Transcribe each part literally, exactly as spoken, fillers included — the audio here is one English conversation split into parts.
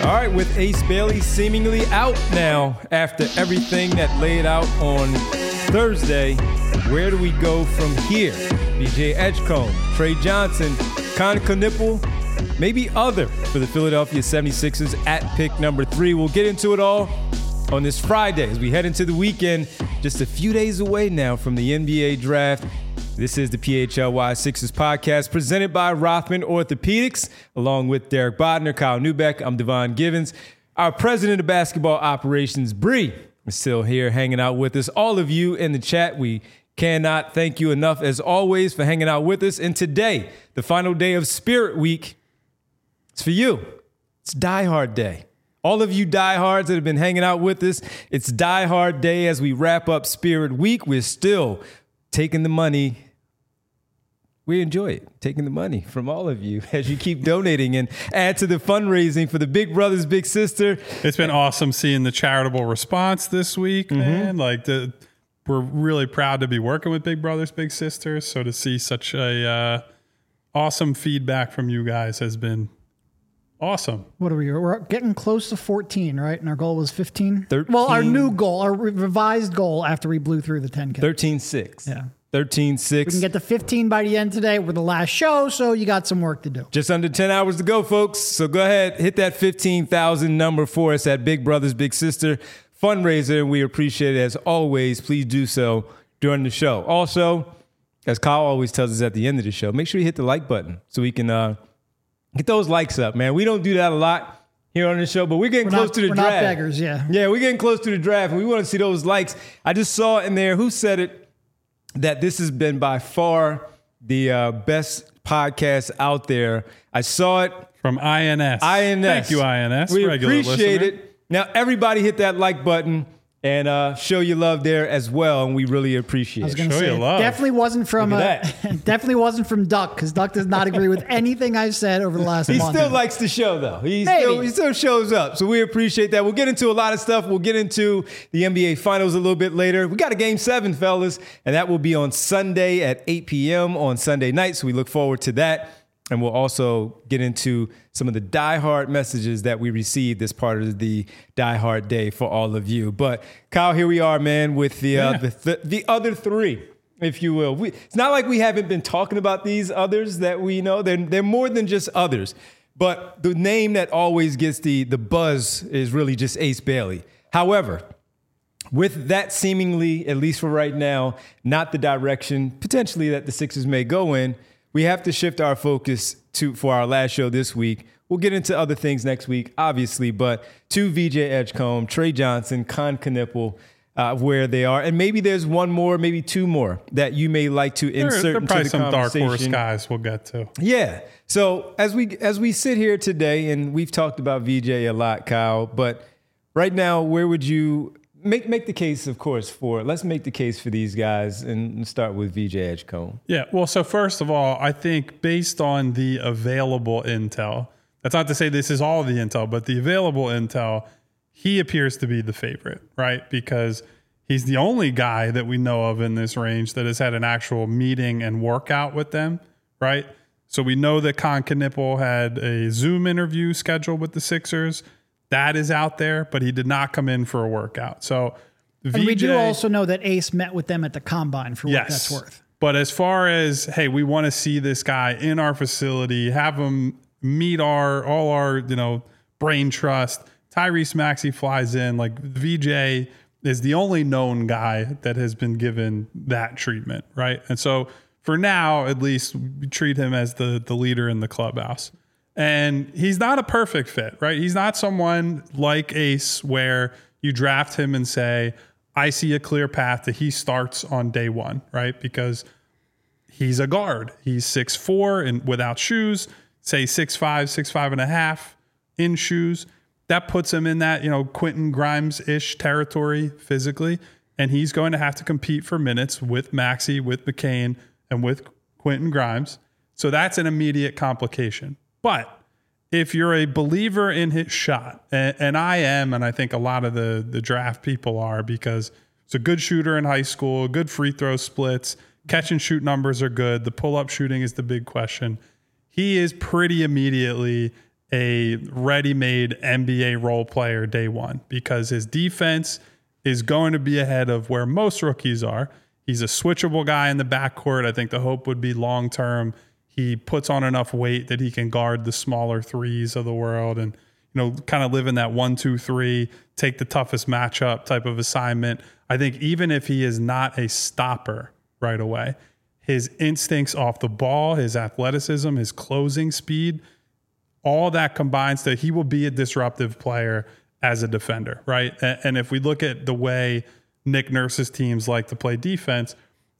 All right, with Ace Bailey seemingly out now after everything that laid out on Thursday, where do we go from here? V J Edgecombe, Trey Johnson, Con Knipple, maybe other for the Philadelphia seventy-sixers at pick number three. We'll get into it all on this Friday as we head into the weekend, just a few days away now from the N B A draft. This is the P H L Y Sixers podcast presented by Rothman Orthopedics, along with Derek Bodner, Kyle Neubeck. I'm Devon Givens. Our president of basketball operations, Bree, is still here hanging out with us. All of you in the chat, we cannot thank you enough, as always, for hanging out with us. And today, the final day of Spirit Week, it's for you. It's Die Hard Day. All of you diehards that have been hanging out with us, it's Die Hard Day as we wrap up Spirit Week. We're still taking the money. We enjoy it, taking the money from all of you as you keep donating and add to the fundraising for the Big Brothers Big Sister. It's been awesome seeing the charitable response this week, mm-hmm. man. Like the, we're really proud to be working with Big Brothers Big Sisters. So to see such a uh, awesome feedback from you guys has been awesome. What are we? We're getting close to fourteen, right? And our goal was fifteen. thirteen Well, our new goal, our revised goal after we blew through the ten K. thirteen six Yeah. thirteen six We can get to fifteen by the end today. We're the last show, so you got some work to do. Just under ten hours to go, folks. So go ahead, hit that fifteen thousand number for us at Big Brothers Big Sister fundraiser. We appreciate it as always. Please do so during the show. Also, as Kyle always tells us at the end of the show, make sure you hit the like button so we can uh, get those likes up, man. We don't do that a lot here on the show, but we're getting we're close not, to the we're draft. We're not beggars, yeah. Yeah, we're getting close to the draft, and we want to see those likes. I just saw in there, who said it, that this has been by far the uh, best podcast out there. I saw it. From I N S. I N S. Thank you, I N S. We Regular appreciate listener. it. Now, everybody hit that like button and uh, show your love there as well, and we really appreciate I was it. going to Show say, your love. definitely wasn't from Look uh, at definitely wasn't from Duck, because Duck does not agree with anything I've said over the last He month. still likes the show, though. He Maybe. still, he still shows up, so we appreciate that. We'll get into a lot of stuff. We'll get into the N B A Finals a little bit later. We got a Game seven, fellas, and that will be on Sunday at eight p.m. on Sunday night, so we look forward to that. And we'll also get into some of the Die Hard messages that we received as part of the Die Hard Day for all of you. But Kyle, here we are, man, with the uh, Yeah. the, th- the other three, if you will. We, it's not like we haven't been talking about these others that we know. They're, they're more than just others. But the name that always gets the, the buzz is really just Ace Bailey. However, with that seemingly, at least for right now, not the direction potentially that the Sixers may go in, we have to shift our focus to for our last show this week. We'll get into other things next week, obviously, but to V J Edgecombe, Trey Johnson, Con Knipple, uh, where they are. And maybe there's one more, maybe two more that you may like to There, insert there are into probably the some dark conversation. horse guys we'll get to. Yeah. So as we as we sit here today, and we've talked about V J a lot, Kyle, but right now, where would you make make the case, of course, for let's make the case for these guys and start with V J Edgecombe. Yeah, well, so first of all, I think based on the available intel, that's not to say this is all the intel, but the available intel, he appears to be the favorite, right? Because he's the only guy that we know of in this range that has had an actual meeting and workout with them, right? So we know that Con Knipple had a Zoom interview scheduled with the Sixers. That is out there, but he did not come in for a workout. So V J, and we do also know that Ace met with them at the Combine for what yes, that's worth. But as far as, hey, we want to see this guy in our facility, have him meet our all our, you know, brain trust. Tyrese Maxey flies in. Like V J is the only known guy that has been given that treatment, right? And so for now, at least, we treat him as the the leader in the clubhouse. And he's not a perfect fit, right? He's not someone like Ace where you draft him and say, I see a clear path that he starts on day one, right? Because he's a guard. He's six foot four and without shoes, say six foot five, six foot five and a half in shoes. That puts him in that, you know, Quentin Grimes-ish territory physically. And he's going to have to compete for minutes with Maxey, with McCain, and with Quentin Grimes. So that's an immediate complication. But if you're a believer in his shot, and, and I am, and I think a lot of the, the draft people are, because he's a good shooter in high school, good free throw splits, catch and shoot numbers are good. The pull-up shooting is the big question. He is pretty immediately a ready-made N B A role player day one because his defense is going to be ahead of where most rookies are. He's a switchable guy in the backcourt. I think the hope would be long-term. He puts on enough weight that he can guard the smaller threes of the world and, you know, kind of live in that one, two, three, take the toughest matchup type of assignment. I think even if he is not a stopper right away, his instincts off the ball, his athleticism, his closing speed, all that combines that he will be a disruptive player as a defender, right? And if we look at the way Nick Nurse's teams like to play defense,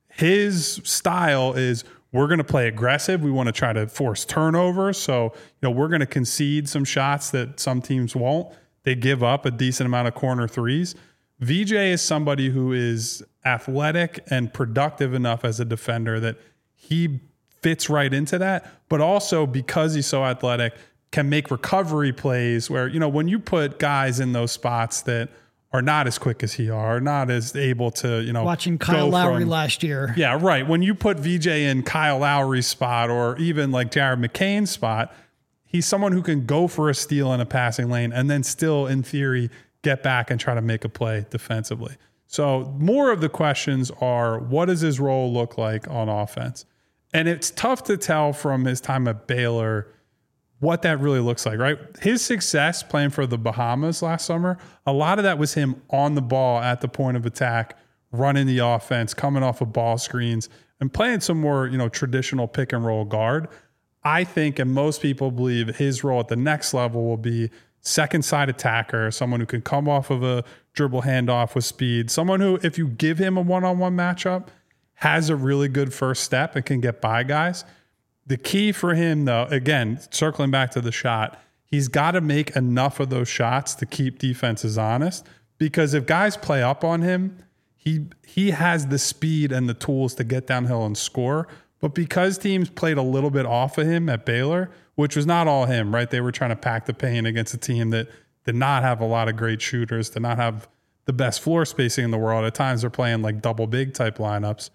his style is we're going to play aggressive. We want to try to force turnovers. So, you know, we're going to concede some shots that some teams won't. They give up a decent amount of corner threes. V J is somebody who is athletic and productive enough as a defender that he fits right into that, but also because he's so athletic, can make recovery plays where, you know, when you put guys in those spots that are not as quick as he are, not as able to, you know, watching Kyle Lowry from, last year. Yeah, right. When you put V J in Kyle Lowry's spot or even like Jared McCain's spot, he's someone who can go for a steal in a passing lane and then still, in theory, get back and try to make a play defensively. So more of the questions are, what does his role look like on offense? And it's tough to tell from his time at Baylor what that really looks like, right? His success playing for the Bahamas last summer, a lot of that was him on the ball at the point of attack, running the offense, coming off of ball screens, and playing some more, you know, traditional pick and roll guard. I think, and most people believe, his role at the next level will be second side attacker, someone who can come off of a dribble handoff with speed, someone who, if you give him a one-on-one matchup, has a really good first step and can get by guys. The key for him, though, again, circling back to the shot, he's got to make enough of those shots to keep defenses honest, because if guys play up on him, he he has the speed and the tools to get downhill and score. But because teams played a little bit off of him at Baylor, which was not all him, right? They were trying to pack the paint against a team that did not have a lot of great shooters, did not have the best floor spacing in the world. At times they're playing like double big type lineups.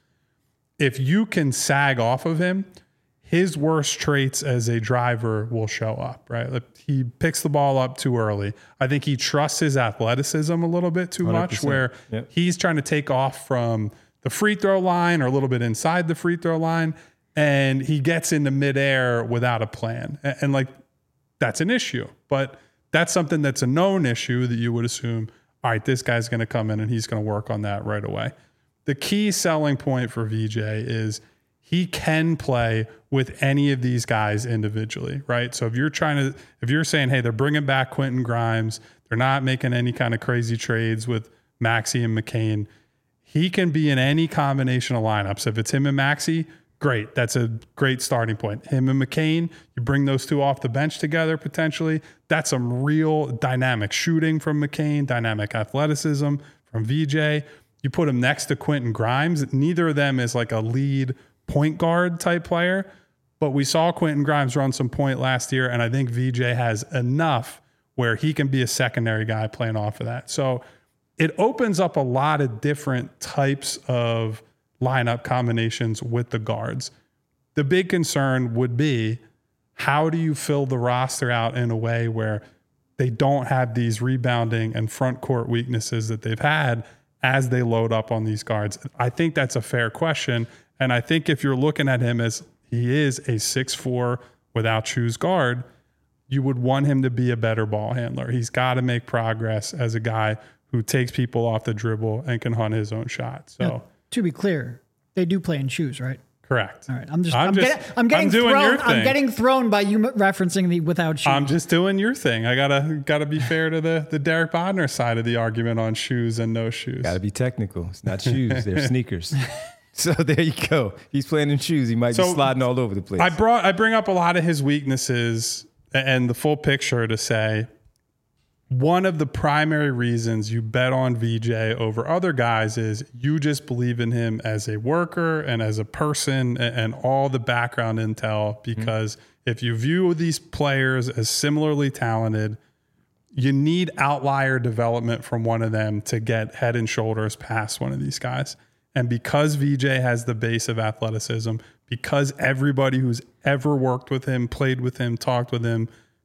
If you can sag off of him, his worst traits as a driver will show up, right? He picks the ball up too early. I think he trusts his athleticism a little bit too much, where yep. he's trying to take off from the free throw line or a little bit inside the free throw line, and he gets into midair without a plan. And, and like, that's an issue. But that's something that's a known issue that you would assume, all right, this guy's going to come in and he's going to work on that right away. The key selling point for V J is he can play with any of these guys individually, right? So if you're trying to, if you're saying, hey, they're bringing back Quentin Grimes, they're not making any kind of crazy trades with Maxey and McCain, he can be in any combination of lineups. If it's him and Maxey, great. That's a great starting point. Him and McCain, you bring those two off the bench together potentially. That's some real dynamic shooting from McCain, dynamic athleticism from V J. You put him next to Quentin Grimes. Neither of them is like a lead point guard type player, but we saw Quentin Grimes run some point last year, and I think V J has enough where he can be a secondary guy playing off of that. So it opens up a lot of different types of lineup combinations with the guards. The big concern would be, how do you fill the roster out in a way where they don't have these rebounding and front court weaknesses that they've had as they load up on these guards? I think that's a fair question. And I think if you're looking at him as he is a six foot four without shoes guard, you would want him to be a better ball handler. He's got to make progress as a guy who takes people off the dribble and can hunt his own shot. So now, to be clear, they do play in shoes, right? Correct. All right. I'm just, I'm, I'm just, getting, I'm getting I'm doing thrown. your thing. I'm getting thrown by you referencing the without shoes. I'm just doing your thing. I gotta, gotta be fair to the, the Derek Bodner side of the argument on shoes and no shoes. Gotta be technical. It's not shoes. They're sneakers. So there you go. He's playing in shoes. He might so be sliding all over the place. I brought, I bring up a lot of his weaknesses and the full picture to say, one of the primary reasons you bet on V J over other guys is you just believe in him as a worker and as a person and, and all the background intel, because mm-hmm. if you view these players as similarly talented, you need outlier development from one of them to get head and shoulders past one of these guys. And because V J has the base of athleticism, because everybody who's ever worked with him, played with him, talked with him,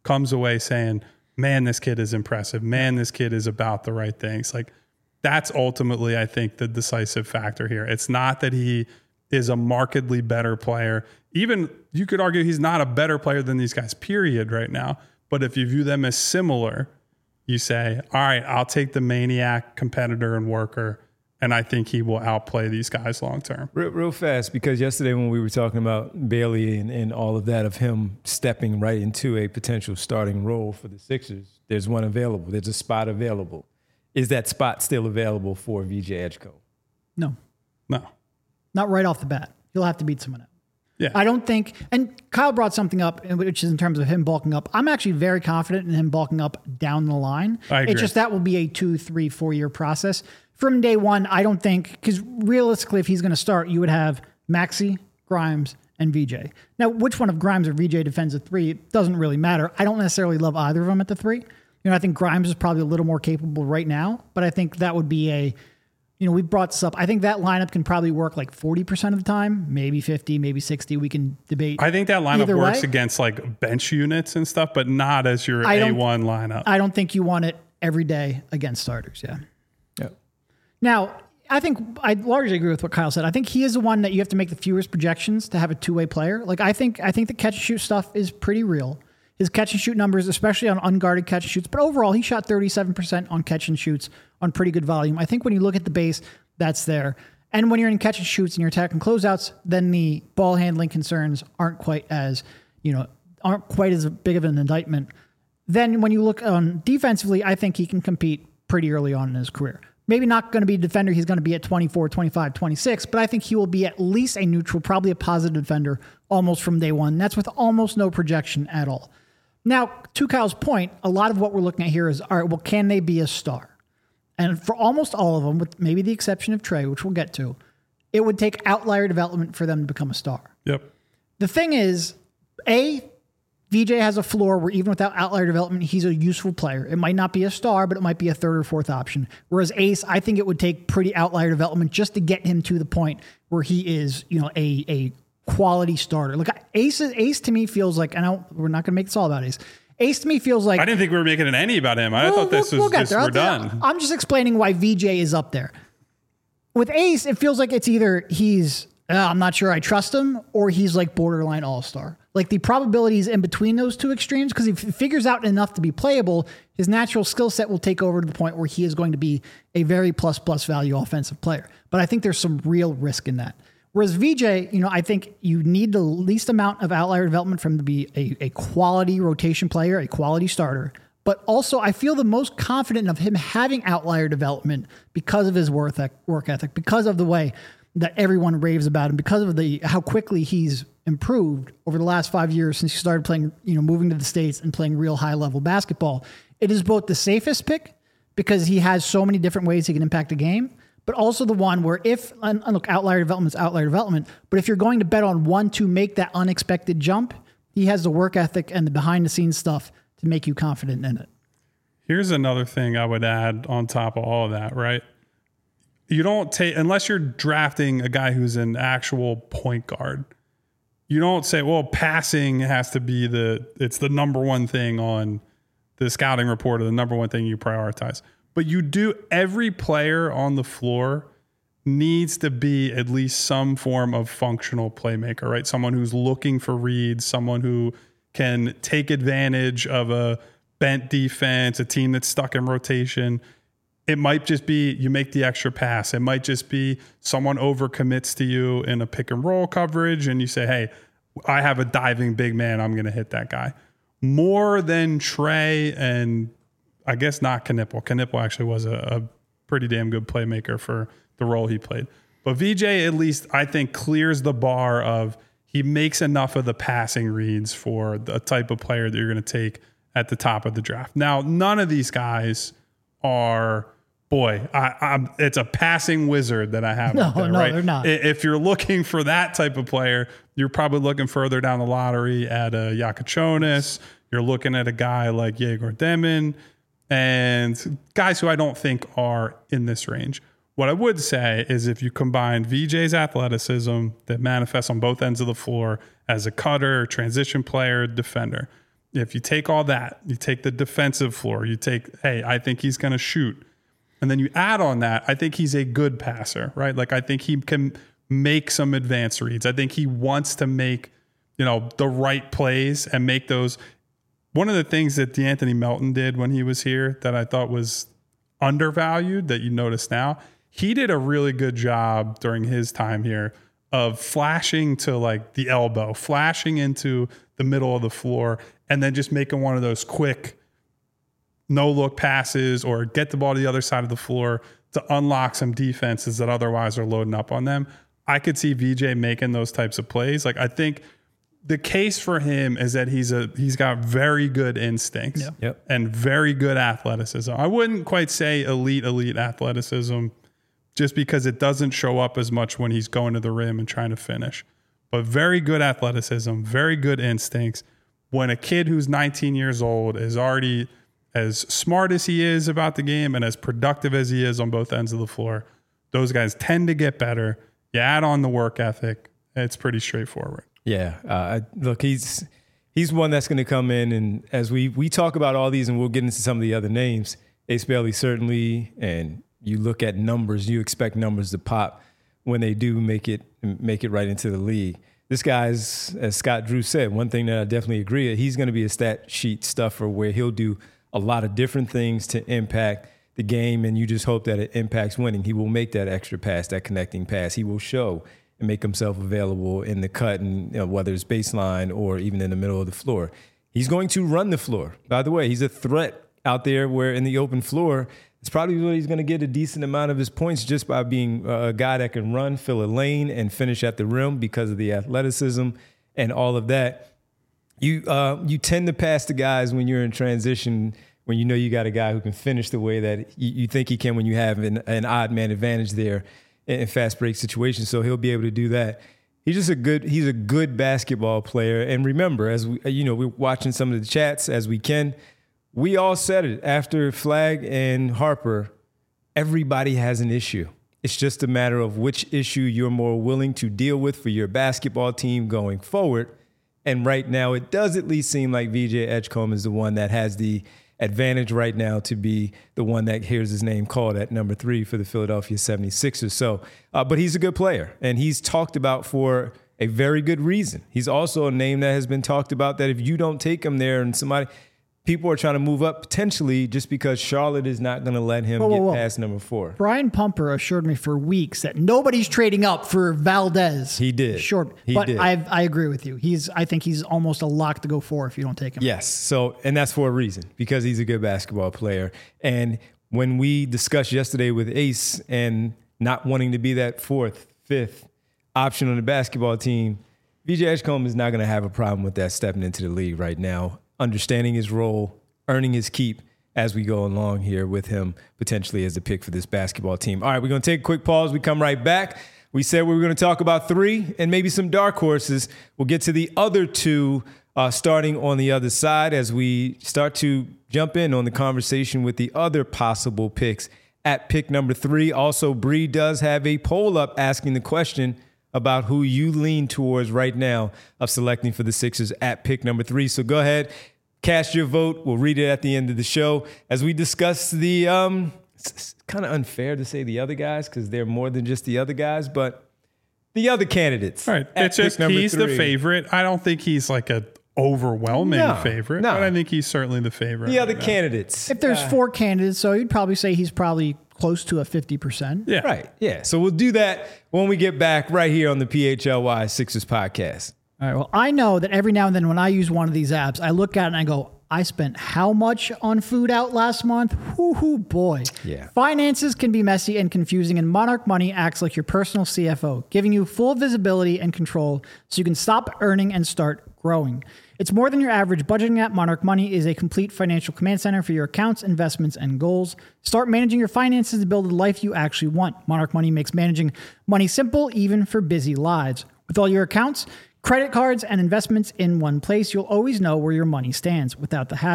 comes away saying, man, this kid is impressive. Man, this kid is about the right things. Like that's ultimately, I think, the decisive factor here. It's not that he is a markedly better player. Even you could argue he's not a better player than these guys, period, right now. But if you view them as similar, you say, all right, I'll take the maniac competitor and worker, and I think he will outplay these guys long term. Real, real fast, because yesterday when we were talking about Bailey and, and all of that, of him stepping right into a potential starting role for the Sixers, there's one available. There's a spot available. Is that spot still available for V J Edgecombe? No. No. Not right off the bat. He'll have to beat someone else. Yeah. I don't think, and Kyle brought something up, which is in terms of him bulking up. I'm actually very confident in him bulking up down the line. I agree. It's just that will be a two, three, four year process. From day one, I don't think, because realistically, if he's going to start, you would have Maxey, Grimes, and V J. Now, which one of Grimes or V J defends a three, it doesn't really matter. I don't necessarily love either of them at the three. You know, I think Grimes is probably a little more capable right now, but I think that would be a, you know, we brought this up. I think that lineup can probably work like forty percent of the time, maybe fifty, maybe sixty. We can debate. I think that lineup either works way. against like bench units and stuff, but not as your I A don't- one lineup. I don't think you want it every day against starters. Yeah. Yeah. Now, I think I largely agree with what Kyle said. I think he is the one that you have to make the fewest projections to have a two-way player. Like I think, I think the catch and shoot stuff is pretty real. His catch and shoot numbers, especially on unguarded catch and shoots, but overall he shot thirty-seven percent on catch and shoots on pretty good volume. I think when you look at the base, that's there. And when you're in catch and shoots and you're attacking closeouts, then the ball handling concerns aren't quite as, you know, aren't quite as big of an indictment. Then when you look on defensively, I think he can compete pretty early on in his career. Maybe not going to be a defender. He's going to be at twenty-four, twenty-five, twenty-six, but I think he will be at least a neutral, probably a positive defender almost from day one. That's with almost no projection at all. Now, to Kyle's point, a lot of what we're looking at here is, all right, well, can they be a star? And for almost all of them, with maybe the exception of Trey, which we'll get to, it would take outlier development for them to become a star. Yep. The thing is, A, V J has a floor where even without outlier development, he's a useful player. It might not be a star, but it might be a third or fourth option. Whereas Ace, I think it would take pretty outlier development just to get him to the point where he is, you know, a a quality starter. Look, Ace, Ace to me feels like, and I don't, we're not going to make this all about Ace. Ace to me feels like... I didn't think we were making it any about him. I We'll- thought this we'll- was we'll get just, there. we're I'll tell- done. I'm just explaining why V J is up there. With Ace, it feels like it's either he's, uh, I'm not sure I trust him, or he's like borderline all-star. Like the probabilities in between those two extremes, because if he figures out enough to be playable, his natural skill set will take over to the point where he is going to be a very plus-plus value offensive player. But I think there's some real risk in that. Whereas V J, you know, I think you need the least amount of outlier development for him to be a, a quality rotation player, a quality starter. But also, I feel the most confident of him having outlier development because of his work ethic, work ethic, because of the way that everyone raves about him, because of the how quickly he's improved over the last five years since he started playing, you know, moving to the States and playing real high level basketball. It is both the safest pick because he has so many different ways he can impact a game, but also the one where if, and look, outlier development is outlier development, but if you're going to bet on one to make that unexpected jump, he has the work ethic and the behind the scenes stuff to make you confident in it. Here's another thing I would add on top of all of that, right? You don't take, unless you're drafting a guy who's an actual point guard, you don't say, well, passing has to be the, it's the number one thing on the scouting report or the number one thing you prioritize. But you do, every player on the floor needs to be at least some form of functional playmaker, right? Someone who's looking for reads, someone who can take advantage of a bent defense, a team that's stuck in rotation. It might just be you make the extra pass. It might just be someone overcommits to you in a pick and roll coverage and you say, hey, I have a diving big man. I'm going to hit that guy. More than Trey and I guess not Knipple. Knipple actually was a, a pretty damn good playmaker for the role he played. But V J, at least, I think, clears the bar of he makes enough of the passing reads for the type of player that you're going to take at the top of the draft. Now, none of these guys are, boy, I, I'm, it's a passing wizard that I have. No, out there, no, right? they're not. If you're looking for that type of player, you're probably looking further down the lottery at a Yakachonis. You're looking at a guy like Yegor Demon and guys who I don't think are in this range. What I would say is if you combine V J's athleticism that manifests on both ends of the floor as a cutter, transition player, defender, if you take all that, you take the defensive floor, you take, hey, I think he's going to shoot. And then you add on that, I think he's a good passer, right? Like I think he can make some advanced reads. I think he wants to make, you know, the right plays and make those. One of the things that DeAnthony Melton did when he was here that I thought was undervalued that you notice now, he did a really good job during his time here of flashing to like the elbow, flashing into the middle of the floor, and then just making one of those quick no look passes or get the ball to the other side of the floor to unlock some defenses that otherwise are loading up on them. I could see V J making those types of plays. Like I think the case for him is that he's a he's got very good instincts yeah. Yep. and very good athleticism. I wouldn't quite say elite, elite athleticism just because it doesn't show up as much when he's going to the rim and trying to finish. But very good athleticism, very good instincts. When a kid who's nineteen years old is already as smart as he is about the game and as productive as he is on both ends of the floor, those guys tend to get better. You add on the work ethic, it's pretty straightforward. Yeah, uh, look, he's he's one that's going to come in, and as we we talk about all these, and we'll get into some of the other names, Ace Bailey certainly, and you look at numbers, you expect numbers to pop when they do make it make it right into the league. This guy's, as Scott Drew said, one thing that I definitely agree, he's going to be a stat sheet stuffer where he'll do a lot of different things to impact the game, and you just hope that it impacts winning. He will make that extra pass, that connecting pass. He will show and make himself available in the cut, and you know, whether it's baseline or even in the middle of the floor. He's going to run the floor. By the way, he's a threat out there where in the open floor, it's probably where he's going to get a decent amount of his points just by being a guy that can run, fill a lane, and finish at the rim because of the athleticism and all of that. You uh, you tend to pass the guys when you're in transition, when you know you got a guy who can finish the way that you, you think he can when you have an, an odd man advantage there in fast break situations. So he'll be able to do that. He's just a good he's a good basketball player. And remember, as we you know, we're watching some of the chats as we can. We all said it after Flagg and Harper. Everybody has an issue. It's just a matter of which issue you're more willing to deal with for your basketball team going forward. And right now, it does at least seem like V J Edgecombe is the one that has the advantage right now to be the one that hears his name called at number three for the Philadelphia seventy-sixers. So, uh, but he's a good player, and he's talked about for a very good reason. He's also a name that has been talked about that if you don't take him there and somebody, people are trying to move up potentially just because Charlotte is not going to let him whoa, whoa, get whoa. past number four. Brian Pumper assured me for weeks that nobody's trading up for Valdez. He did. Sure. He but did. I I agree with you. He's I think he's almost a lock to go four if you don't take him. Yes. So, and that's for a reason, because he's a good basketball player. And when we discussed yesterday with Ace and not wanting to be that fourth, fifth option on the basketball team, V J Edgecombe is not going to have a problem with that stepping into the league right now, understanding his role, earning his keep as we go along here with him potentially as the pick for this basketball team. All right, we're going to take a quick pause. We come right back. We said we were going to talk about three and maybe some dark horses. We'll get to the other two uh, starting on the other side as we start to jump in on the conversation with the other possible picks at pick number three. Also, Bree does have a poll up asking the question about who you lean towards right now of selecting for the Sixers at pick number three. So go ahead, cast your vote. We'll read it at the end of the show as we discuss the, um, it's, it's kind of unfair to say the other guys because they're more than just the other guys, but the other candidates. All right. It's just he's three. the favorite. I don't think he's like a overwhelming no, favorite, no. but I think he's certainly the favorite. The right other now. candidates. If there's uh, four candidates, so you'd probably say he's probably close to a fifty percent. Yeah. Right. Yeah. So we'll do that when we get back right here on the P H L Y Sixers podcast. All right. Well, I know that every now and then when I use one of these apps, I look at it and I go, I spent how much on food out last month? Whoo-hoo, boy. Yeah. Finances can be messy and confusing, and Monarch Money acts like your personal C F O, giving you full visibility and control so you can stop earning and start growing. It's more than your average budgeting app. Monarch Money is a complete financial command center for your accounts, investments, and goals. Start managing your finances to build the life you actually want. Monarch Money makes managing money simple, even for busy lives. With all your accounts, credit cards, and investments in one place, you'll always know where your money stands without the hassle.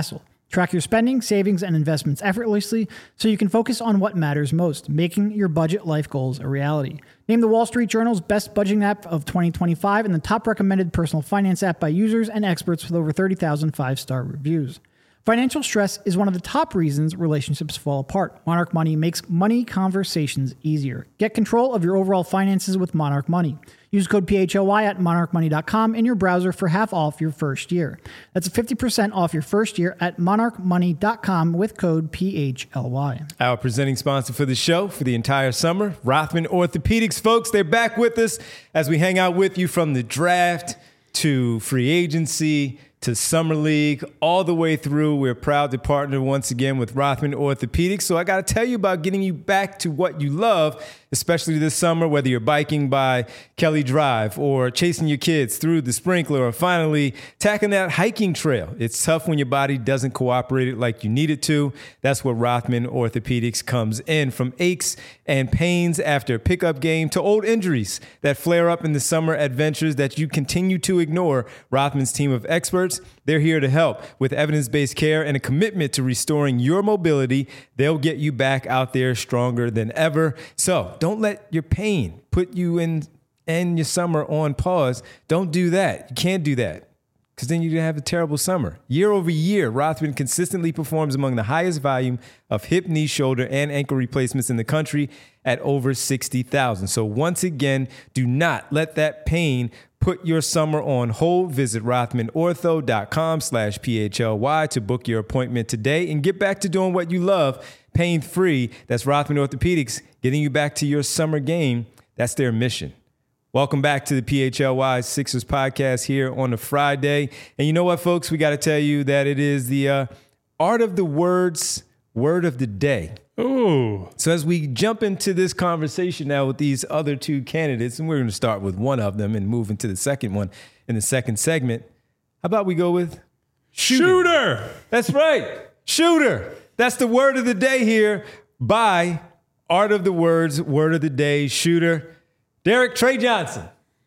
Track your spending, savings, and investments effortlessly so you can focus on what matters most, making your budget life goals a reality. Named the Wall Street Journal's best budgeting app of twenty twenty-five and the top recommended personal finance app by users and experts with over thirty thousand five-star reviews. Financial stress is one of the top reasons relationships fall apart. Monarch Money makes money conversations easier. Get control of your overall finances with Monarch Money. Use code P H L Y at monarch money dot com in your browser for half off your first year. That's fifty percent off your first year at monarch money dot com with code P H L Y. Our presenting sponsor for the show for the entire summer, Rothman Orthopedics. Folks, they're back with us as we hang out with you from the draft to free agency to Summer League, all the way through. We're proud to partner once again with Rothman Orthopedics. So I got to tell you about getting you back to what you love, especially this summer, whether you're biking by Kelly Drive or chasing your kids through the sprinkler or finally tacking that hiking trail. It's tough when your body doesn't cooperate like you need it to. That's where Rothman Orthopedics comes in. From aches and pains after a pickup game to old injuries that flare up in the summer adventures that you continue to ignore, Rothman's team of experts, they're here to help with evidence-based care and a commitment to restoring your mobility. They'll get you back out there stronger than ever. So don't let your pain put you in and your summer on pause. Don't do that. You can't do that because then you're going to have a terrible summer. Year over year, Rothman consistently performs among the highest volume of hip, knee, shoulder, and ankle replacements in the country at over sixty thousand. So once again, do not let that pain put your summer on hold. Visit rothmanortho.com slash P-H-L-Y to book your appointment today and get back to doing what you love, pain-free. That's Rothman Orthopedics, getting you back to your summer game. That's their mission. Welcome back to the P H L Y Sixers podcast here on a Friday. And you know what, folks? We got to tell you that it is the uh, Art of the Words word of the day. Ooh. So as we jump into this conversation now with these other two candidates, and we're going to start with one of them and move into the second one in the second segment, how about we go with shooting? Shooter. That's right. Shooter. That's the word of the day here by Art of the Words, word of the day, shooter. Derek Trey Johnson.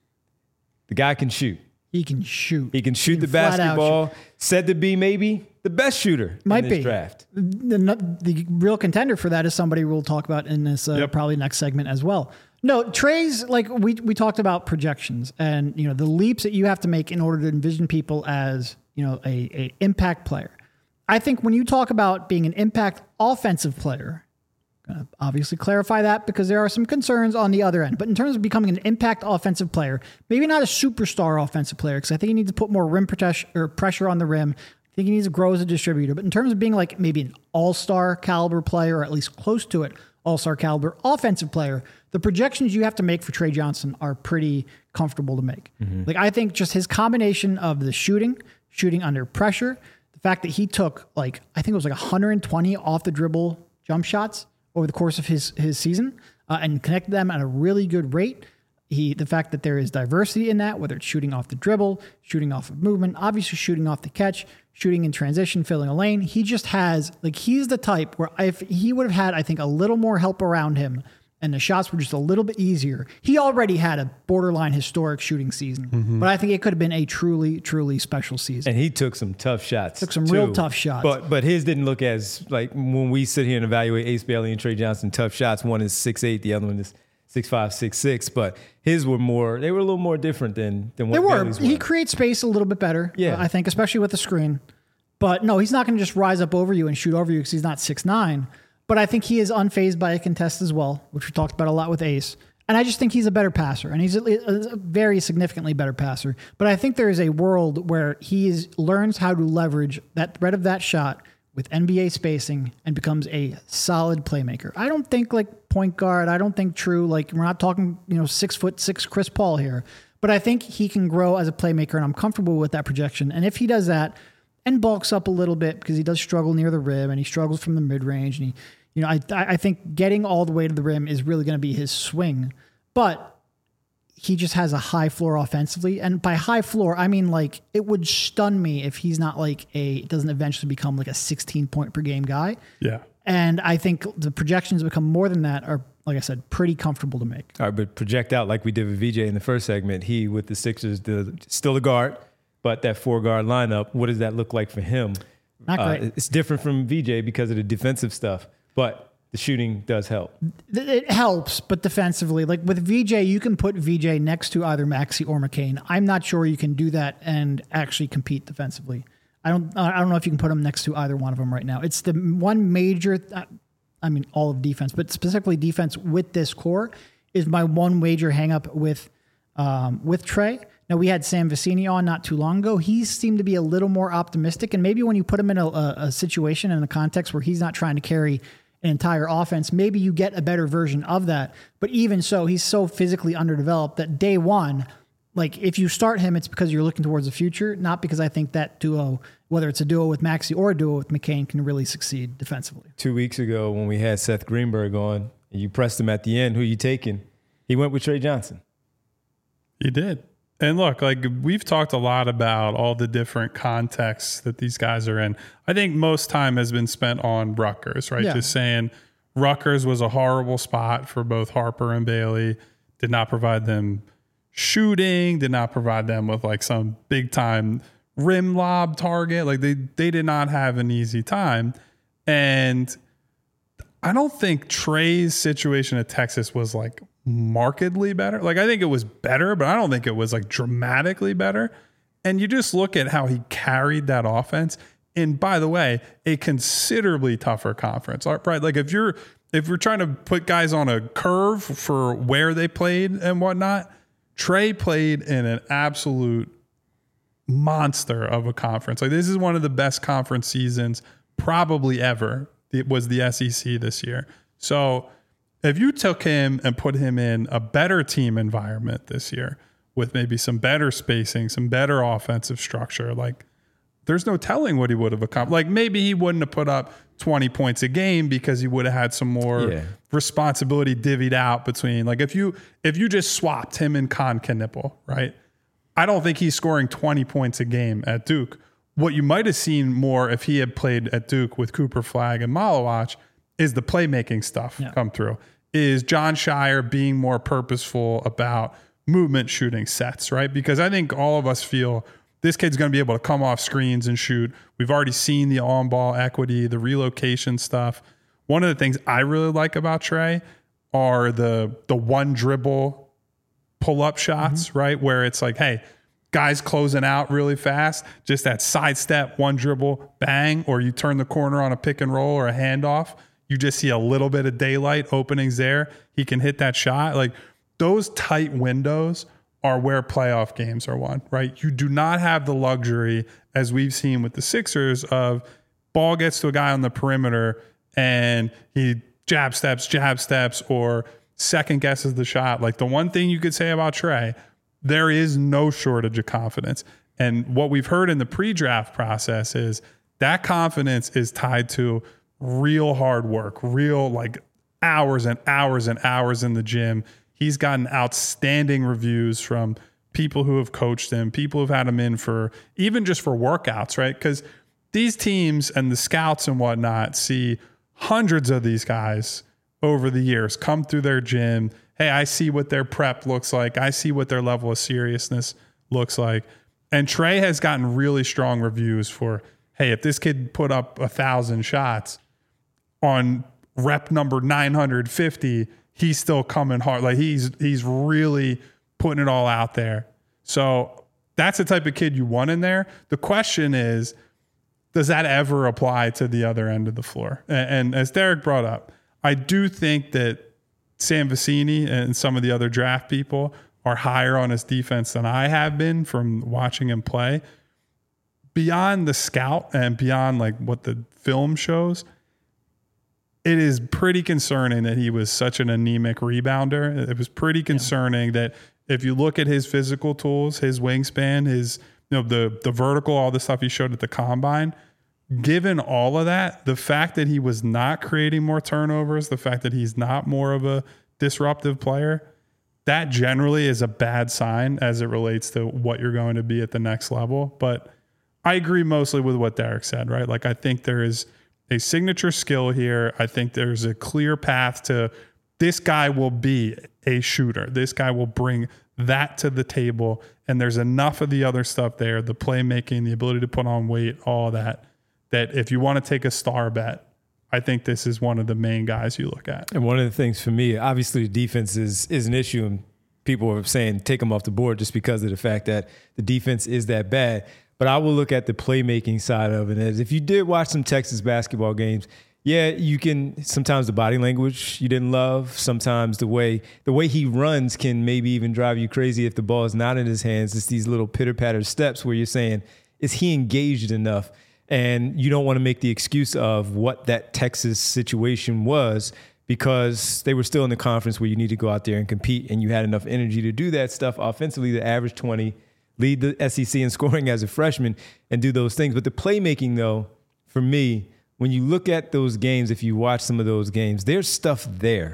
The guy can shoot. He can shoot. He can shoot He the can flat out basketball. shoot. Said to be maybe the best shooter Might in this be. draft. The, the real contender for that is somebody we'll talk about in this uh, Yep. probably next segment as well. No, Trey's like we we talked about projections and you know the leaps that you have to make in order to envision people as you know a, a impact player. I think when you talk about being an impact offensive player, gonna obviously clarify that because there are some concerns on the other end. But in terms of becoming an impact offensive player, maybe not a superstar offensive player because I think he needs to put more rim protection or pressure on the rim. I think he needs to grow as a distributor. But in terms of being like maybe an all-star caliber player or at least close to it, all-star caliber offensive player, the projections you have to make for Trey Johnson are pretty comfortable to make. Mm-hmm. Like I think just his combination of the shooting, shooting under pressure, the fact that he took like, I think it was like one hundred twenty off the dribble jump shots over the course of his, his season uh, and connected them at a really good rate. He, the fact that there is diversity in that, whether it's shooting off the dribble, shooting off of movement, obviously shooting off the catch, shooting in transition, filling a lane. He just has, like, he's the type where if he would have had, I think, a little more help around him and the shots were just a little bit easier, he already had a borderline historic shooting season. Mm-hmm. But I think it could have been a truly, truly special season. And he took some tough shots. Took some too. real tough shots. But but his didn't look as, like, when we sit here and evaluate Ace Bailey and Trey Johnson, tough shots, one is six eight, the other one is six five, six six, but his were more, they were a little more different than, than what they were. Bailey's were. He creates space a little bit better, Yeah. uh, I think, especially with the screen. But no, he's not going to just rise up over you and shoot over you because he's not six nine. But I think he is unfazed by a contest as well, which we talked about a lot with Ace. And I just think he's a better passer, and he's a, a very significantly better passer. But I think there is a world where he is, learns how to leverage that threat of that shot with N B A spacing and becomes a solid playmaker. I don't think like point guard. I don't think true. Like we're not talking, you know, six foot six Chris Paul here, but I think he can grow as a playmaker, and I'm comfortable with that projection. And if he does that and bulks up a little bit because he does struggle near the rim and he struggles from the mid range, and he, you know, I I think getting all the way to the rim is really going to be his swing, but he just has a high floor offensively. And by high floor, I mean, like, it would stun me if he's not like a, doesn't eventually become like a sixteen point per game guy. Yeah. And I think the projections become more than that are, like I said, pretty comfortable to make. All right, but project out like we did with V J in the first segment. He, with the Sixers, the, still a guard, but that four guard lineup, what does that look like for him Not great. Uh, it's different from V J because of the defensive stuff, but the shooting does help. It helps, but defensively, like with V J, you can put V J next to either Maxey or McCain. I'm not sure you can do that and actually compete defensively. I don't. I don't know if you can put him next to either one of them right now. It's the one major. I mean, all of defense, but specifically defense with this core is my one major hang up with um, with Trey. Now, we had Sam Vecini on not too long ago. He seemed to be a little more optimistic, and maybe when you put him in a, a, a situation and a context where he's not trying to carry an entire offense, maybe you get a better version of that. But even so, he's so physically underdeveloped that day one, like if you start him, it's because you're looking towards the future, not because I think that duo, whether it's a duo with Maxey or a duo with McCain, can really succeed defensively. Two weeks ago when we had Seth Greenberg on, and you pressed him at the end, who you taking? He went with Trey Johnson. He did. And look, like we've talked a lot about all the different contexts that these guys are in. I think most time has been spent on Rutgers, right? Yeah. Just saying Rutgers was a horrible spot for both Harper and Bailey, did not provide them shooting, did not provide them with like some big time rim lob target. Like they, they did not have an easy time. And I don't think Trey's situation at Texas was like markedly better. Like I think it was better, but I don't think it was like dramatically better. And you just look at how he carried that offense. And by the way, a considerably tougher conference, right? Like if you're, if we're trying to put guys on a curve for where they played and whatnot, Trey played in an absolute monster of a conference. Like this is one of the best conference seasons probably ever. It was the S E C this year. So if you took him and put him in a better team environment this year with maybe some better spacing, some better offensive structure, like there's no telling what he would have accomplished. Like maybe he wouldn't have put up twenty points a game because he would have had some more yeah. responsibility divvied out between, like if you, if you just swapped him and Con Knipple, right? I don't think he's scoring twenty points a game at Duke. What you might have seen more if he had played at Duke with Cooper Flagg and Malawach is the playmaking stuff yeah. come through. Is John Shire being more purposeful about movement shooting sets, right? Because I think all of us feel this kid's going to be able to come off screens and shoot. We've already seen the on-ball equity, the relocation stuff. One of the things I really like about Trey are the the one dribble pull-up shots, mm-hmm. right? Where it's like, hey, guys closing out really fast, just that sidestep, one dribble, bang, or you turn the corner on a pick and roll or a handoff. You just see a little bit of daylight openings there. He can hit that shot. Like those tight windows are where playoff games are won, right? You do not have the luxury, as we've seen with the Sixers, of ball gets to a guy on the perimeter and he jab steps, jab steps, or second guesses the shot. Like the one thing you could say about Trey, there is no shortage of confidence. And what we've heard in the pre-draft process is that confidence is tied to real hard work, real like hours and hours and hours in the gym. He's gotten outstanding reviews from people who have coached him, people who've had him in for even just for workouts, right? Because these teams and the scouts and whatnot see hundreds of these guys over the years come through their gym. Hey, I see what their prep looks like. I see what their level of seriousness looks like. And Trey has gotten really strong reviews for, hey, if this kid put up a thousand shots on rep number nine hundred fifty, he's still coming hard. Like he's he's really putting it all out there. So that's the type of kid you want in there. The question is, does that ever apply to the other end of the floor? And, and as Derek brought up, I do think that Sam Vecini and some of the other draft people are higher on his defense than I have been from watching him play. Beyond the scout and beyond like what the film shows, it is pretty concerning that he was such an anemic rebounder. It was pretty concerning yeah. that if you look at his physical tools, his wingspan, his, you know, the, the vertical, all the stuff he showed at the combine, given all of that, the fact that he was not creating more turnovers, the fact that he's not more of a disruptive player, that generally is a bad sign as it relates to what you're going to be at the next level. But I agree mostly with what Derek said, right? Like, I think there is a signature skill here. I think there's a clear path to this guy will be a shooter. This guy will bring that to the table. And there's enough of the other stuff there, the playmaking, the ability to put on weight, all that, that if you want to take a star bet, I think this is one of the main guys you look at. And one of the things for me, obviously the defense is is an issue, and people are saying take them off the board just because of the fact that the defense is that bad. But I will look at the playmaking side of it as if you did watch some Texas basketball games, yeah, you can sometimes the body language you didn't love. Sometimes the way the way he runs can maybe even drive you crazy if the ball is not in his hands. It's these little pitter-patter steps where you're saying, is he engaged enough? And you don't want to make the excuse of what that Texas situation was because they were still in the conference where you need to go out there and compete, and you had enough energy to do that stuff offensively, to average twenty, lead the S E C in scoring as a freshman, and do those things. But the playmaking, though, for me, when you look at those games, if you watch some of those games, there's stuff there.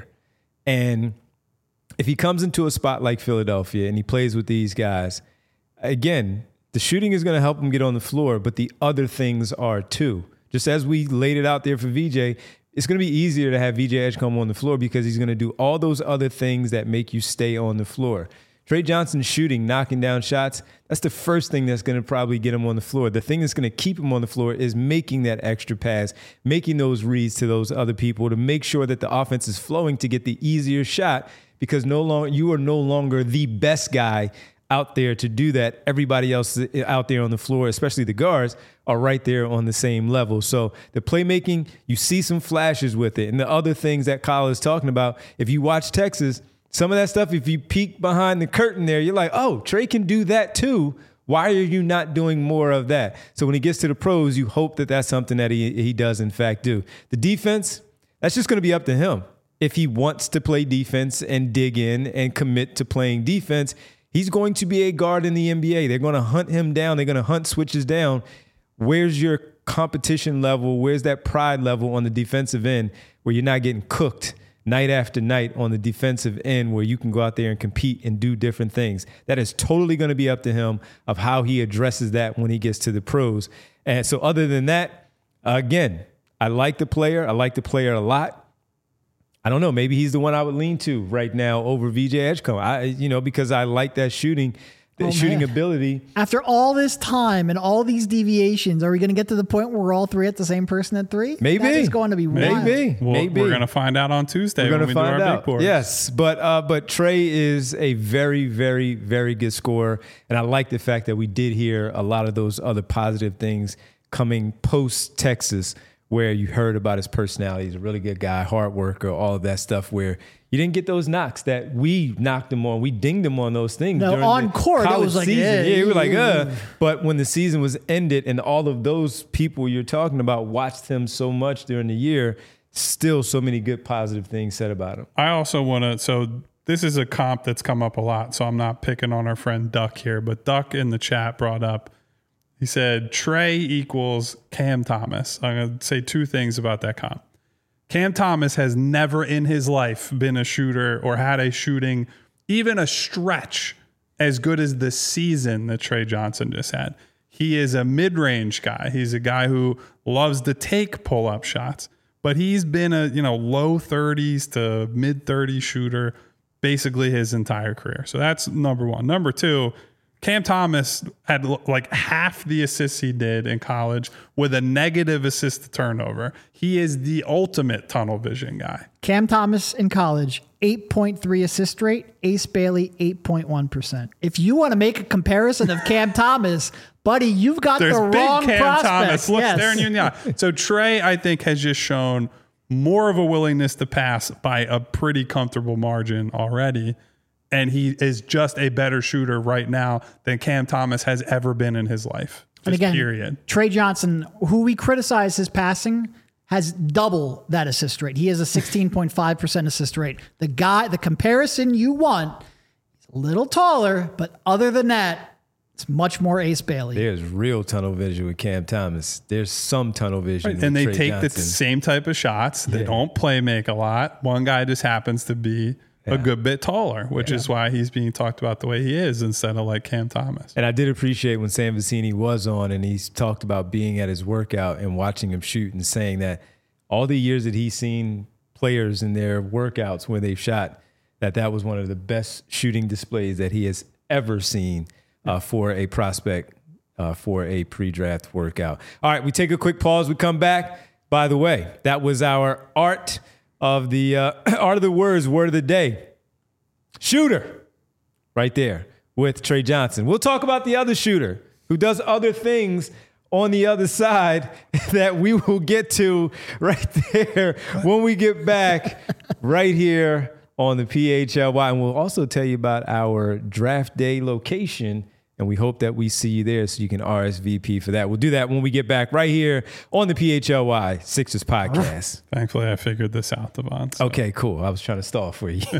And if he comes into a spot like Philadelphia and he plays with these guys, again, the shooting is going to help him get on the floor, but the other things are too. Just as we laid it out there for V J, it's going to be easier to have V J Edgecombe on the floor because he's going to do all those other things that make you stay on the floor. Trey Johnson shooting, knocking down shots, that's the first thing that's going to probably get him on the floor. The thing that's going to keep him on the floor is making that extra pass, making those reads to those other people to make sure that the offense is flowing to get the easier shot, because no longer you are no longer the best guy out there to do that. Everybody else out there on the floor, especially the guards, are right there on the same level. So the playmaking, you see some flashes with it. And the other things that Kyle is talking about, if you watch Texas, some of that stuff, if you peek behind the curtain there, you're like, oh, Trey can do that too. Why are you not doing more of that? So when he gets to the pros, you hope that that's something that he, he does in fact do. The defense, that's just going to be up to him. If he wants to play defense and dig in and commit to playing defense, he's going to be a guard in the N B A. They're going to hunt him down. They're going to hunt switches down. Where's your competition level? Where's that pride level on the defensive end where you're not getting cooked night after night on the defensive end, where you can go out there and compete and do different things? That is totally going to be up to him of how he addresses that when he gets to the pros. And so other than that, again, I like the player. I like the player a lot. I don't know. Maybe he's the one I would lean to right now over V J Edgecombe. I, you know, because I like that shooting, the oh, shooting man. ability. After all this time and all these deviations, are we going to get to the point where we're all three at the same person at three? Maybe. That is going to be wild. Maybe. Well, Maybe. We're going to find out on Tuesday We're when gonna we find do our out. big boards. Yes, but uh, but Trey is a very, very, very good scorer, and I like the fact that we did hear a lot of those other positive things coming post Texas, where you heard about his personality. He's a really good guy, hard worker, all of that stuff, where you didn't get those knocks that we knocked him on. We dinged him on those things. No, during on the court, it college was like, season. yeah, yeah, we were like, yeah. uh. But when the season was ended and all of those people you're talking about watched him so much during the year, still so many good positive things said about him. I also want to, so this is a comp that's come up a lot, so I'm not picking on our friend Duck here, but Duck in the chat brought up, he said, Trey equals Cam Thomas. I'm going to say two things about that comp. Cam Thomas has never in his life been a shooter or had a shooting, even a stretch, as good as the season that Trey Johnson just had. He is a mid-range guy. He's a guy who loves to take pull-up shots, but he's been a, you know, low thirties to mid thirties shooter basically his entire career. So that's number one. Number two, Cam Thomas had like half the assists he did in college with a negative assist to turnover. He is the ultimate tunnel vision guy. Cam Thomas in college, eight point three assist rate. Ace Bailey, eight point one percent. If you want to make a comparison of Cam Thomas, buddy, you've got There's the big wrong Cam prospect. Thomas. Look, Yes. staring you in the eye. So Trey, I think, has just shown more of a willingness to pass by a pretty comfortable margin already. And he is just a better shooter right now than Cam Thomas has ever been in his life. Just And again, period. Trey Johnson, who we criticize his passing, has double that assist rate. He has a sixteen point five percent assist rate. The guy, the comparison you want, he's a little taller, but other than that, it's much more Ace Bailey. There's real tunnel vision with Cam Thomas. There's some tunnel vision. Right. with And they Trey take Johnson. the same type of shots. They Yeah. don't play make a lot. One guy just happens to be Yeah. a good bit taller, which is why he's being talked about the way he is instead of like Cam Thomas. And I did appreciate when Sam Vecini was on and he's talked about being at his workout and watching him shoot and saying that all the years that he's seen players in their workouts where they've shot, that that was one of the best shooting displays that he has ever seen uh, for a prospect uh, for a pre-draft workout. All right, we take a quick pause. We come back. By the way, that was our art of the uh, art of the words, word of the day. Shooter, right there with Trey Johnson. We'll talk about the other shooter who does other things on the other side that we will get to right there when we get back right here on the P H L Y. And we'll also tell you about our draft day location, and we hope that we see you there so you can R S V P for that. We'll do that when we get back right here on the P H L Y Sixers podcast. Thankfully, I figured this out, Devon. So. Okay, cool. I was trying to stall for you.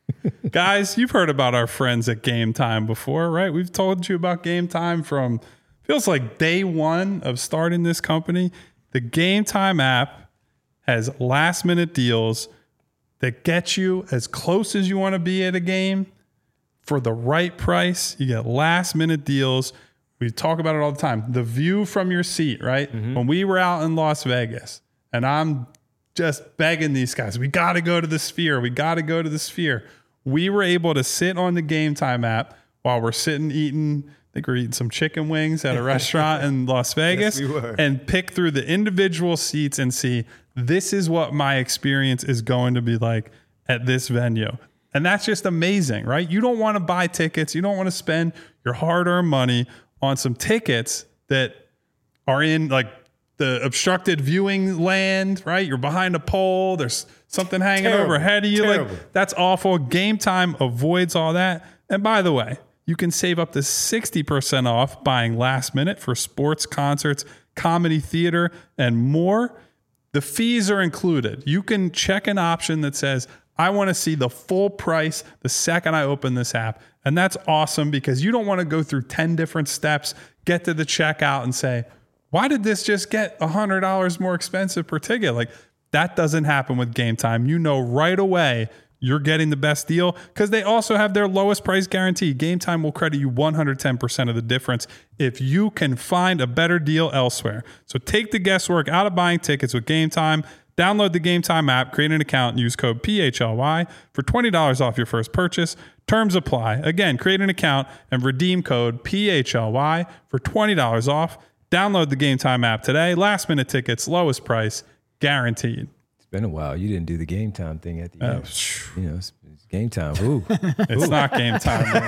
Guys, you've heard about our friends at Game Time before, right? We've told you about Game Time from, feels like day one of starting this company. The Game Time app has last minute deals that get you as close as you want to be at a game for the right price. You get last minute deals. We talk about it all the time. The view from your seat, right? Mm-hmm. When we were out in Las Vegas and I'm just begging these guys, we got to go to the Sphere. We got to go to the Sphere. We were able to sit on the Game Time app while we're sitting eating, I think we're eating some chicken wings at a restaurant in Las Vegas, yes, we were. And pick through the individual seats and see, this is what my experience is going to be like at this venue. And that's just amazing, right? You don't want to buy tickets. You don't want to spend your hard-earned money on some tickets that are in like the obstructed viewing land, right? You're behind a pole. There's something hanging Terrible. overhead of you. Terrible. Like, that's awful. Game Time avoids all that. And by the way, you can save up to sixty percent off buying last minute for sports, concerts, comedy, theater, and more. The fees are included. You can check an option that says, I want to see the full price the second I open this app. And that's awesome because you don't want to go through ten different steps, get to the checkout and say, why did this just get one hundred dollars more expensive per ticket? Like, that doesn't happen with Game Time. You know right away you're getting the best deal because they also have their lowest price guarantee. Game Time will credit you one hundred ten percent of the difference if you can find a better deal elsewhere. So take the guesswork out of buying tickets with Game Time. Download the Game Time app, create an account, and use code P H L Y for twenty dollars off your first purchase. Terms apply. Again, create an account and redeem code P H L Y for twenty dollars off. Download the Game Time app today. Last minute tickets, lowest price, guaranteed. It's been a while. You didn't do the Game Time thing at the Oh, end. phew. You know, it's, it's Game Time. Ooh. It's not Game Time right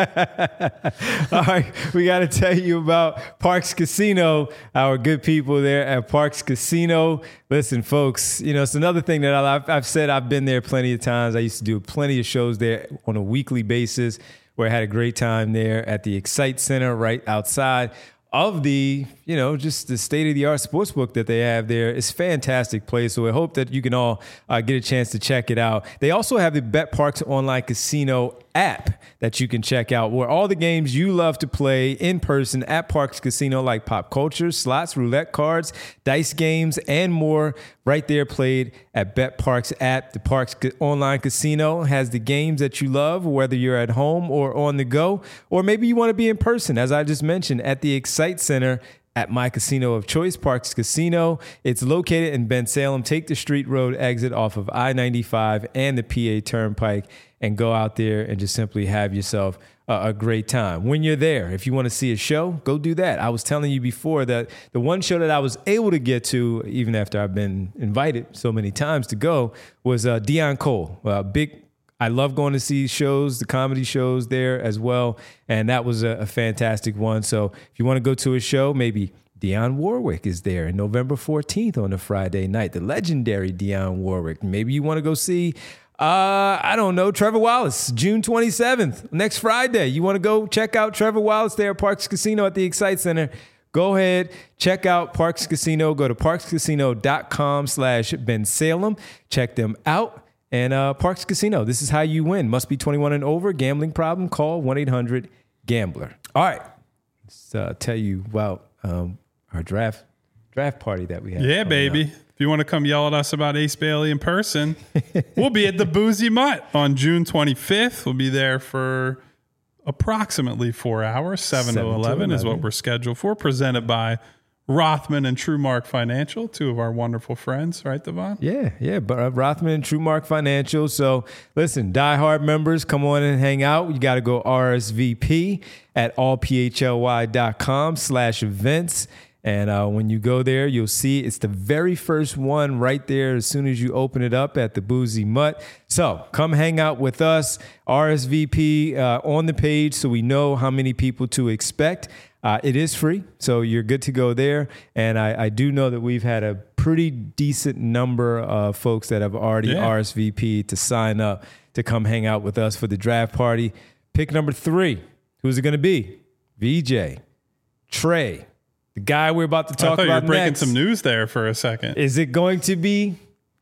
now. All right, we got to tell you about Parx Casino, our good people there at Parx Casino. Listen, folks, you know, it's another thing that I've, I've said. I've been there plenty of times. I used to do plenty of shows there on a weekly basis where I had a great time there at the Excite Center right outside of the, you know, just the state-of-the-art sportsbook that they have there. It's a fantastic place. So I hope that you can all uh, get a chance to check it out. They also have the BetParx online casino app that you can check out where all the games you love to play in person at Parx Casino, like pop culture, slots, roulette cards, dice games, and more right there played at BetParx app. The Parx online casino has the games that you love, whether you're at home or on the go, or maybe you want to be in person, as I just mentioned, at the Excite Center at my casino of choice, Parx Casino. It's located in Bensalem. Take the Street Road exit off of I ninety-five and the P A Turnpike and go out there and just simply have yourself a, a great time. When you're there, if you want to see a show, go do that. I was telling you before that the one show that I was able to get to, even after I've been invited so many times to go, was uh, Deon Cole. Uh, big I love going to see shows, the comedy shows there as well. And that was a, a fantastic one. So if you want to go to a show, maybe Dionne Warwick is there on November fourteenth on a Friday night, the legendary Dionne Warwick. Maybe you want to go see, uh, I don't know, Trevor Wallace, June twenty-seventh, next Friday. You want to go check out Trevor Wallace there at Parx Casino at the Excite Center. Go ahead, check out Parx Casino. Go to parxcasino.com slash Bensalem. Check them out. And uh, Parx Casino, this is how you win. Must be twenty-one and over. Gambling problem? Call one eight hundred gambler. All right. Let's uh, tell you about um, our draft draft party that we have. Yeah, baby. Up. If you want to come yell at us about Ace Bailey in person, we'll be at the Boozy Mutt on June twenty-fifth. We'll be there for approximately four hours. seven, seven to eleven is what we're scheduled for. Presented by Rothman and TrueMark Financial, two of our wonderful friends, right, Devon? Yeah, yeah, but uh, Rothman and TrueMark Financial. So listen, diehard members, come on and hang out. You got to go R S V P at allphly.com slash events. And uh, when you go there, you'll see it's the very first one right there as soon as you open it up at the Boozy Mutt. So come hang out with us, R S V P uh, on the page so we know how many people to expect. Uh, it is free, so you're good to go there. And I, I do know that we've had a pretty decent number of folks that have already yeah. R S V P to sign up to come hang out with us for the draft party. Pick number three. Who's it going to be? V J, Trey, the guy we're about to talk I thought about you were breaking next. some news there for a second. Is it going to be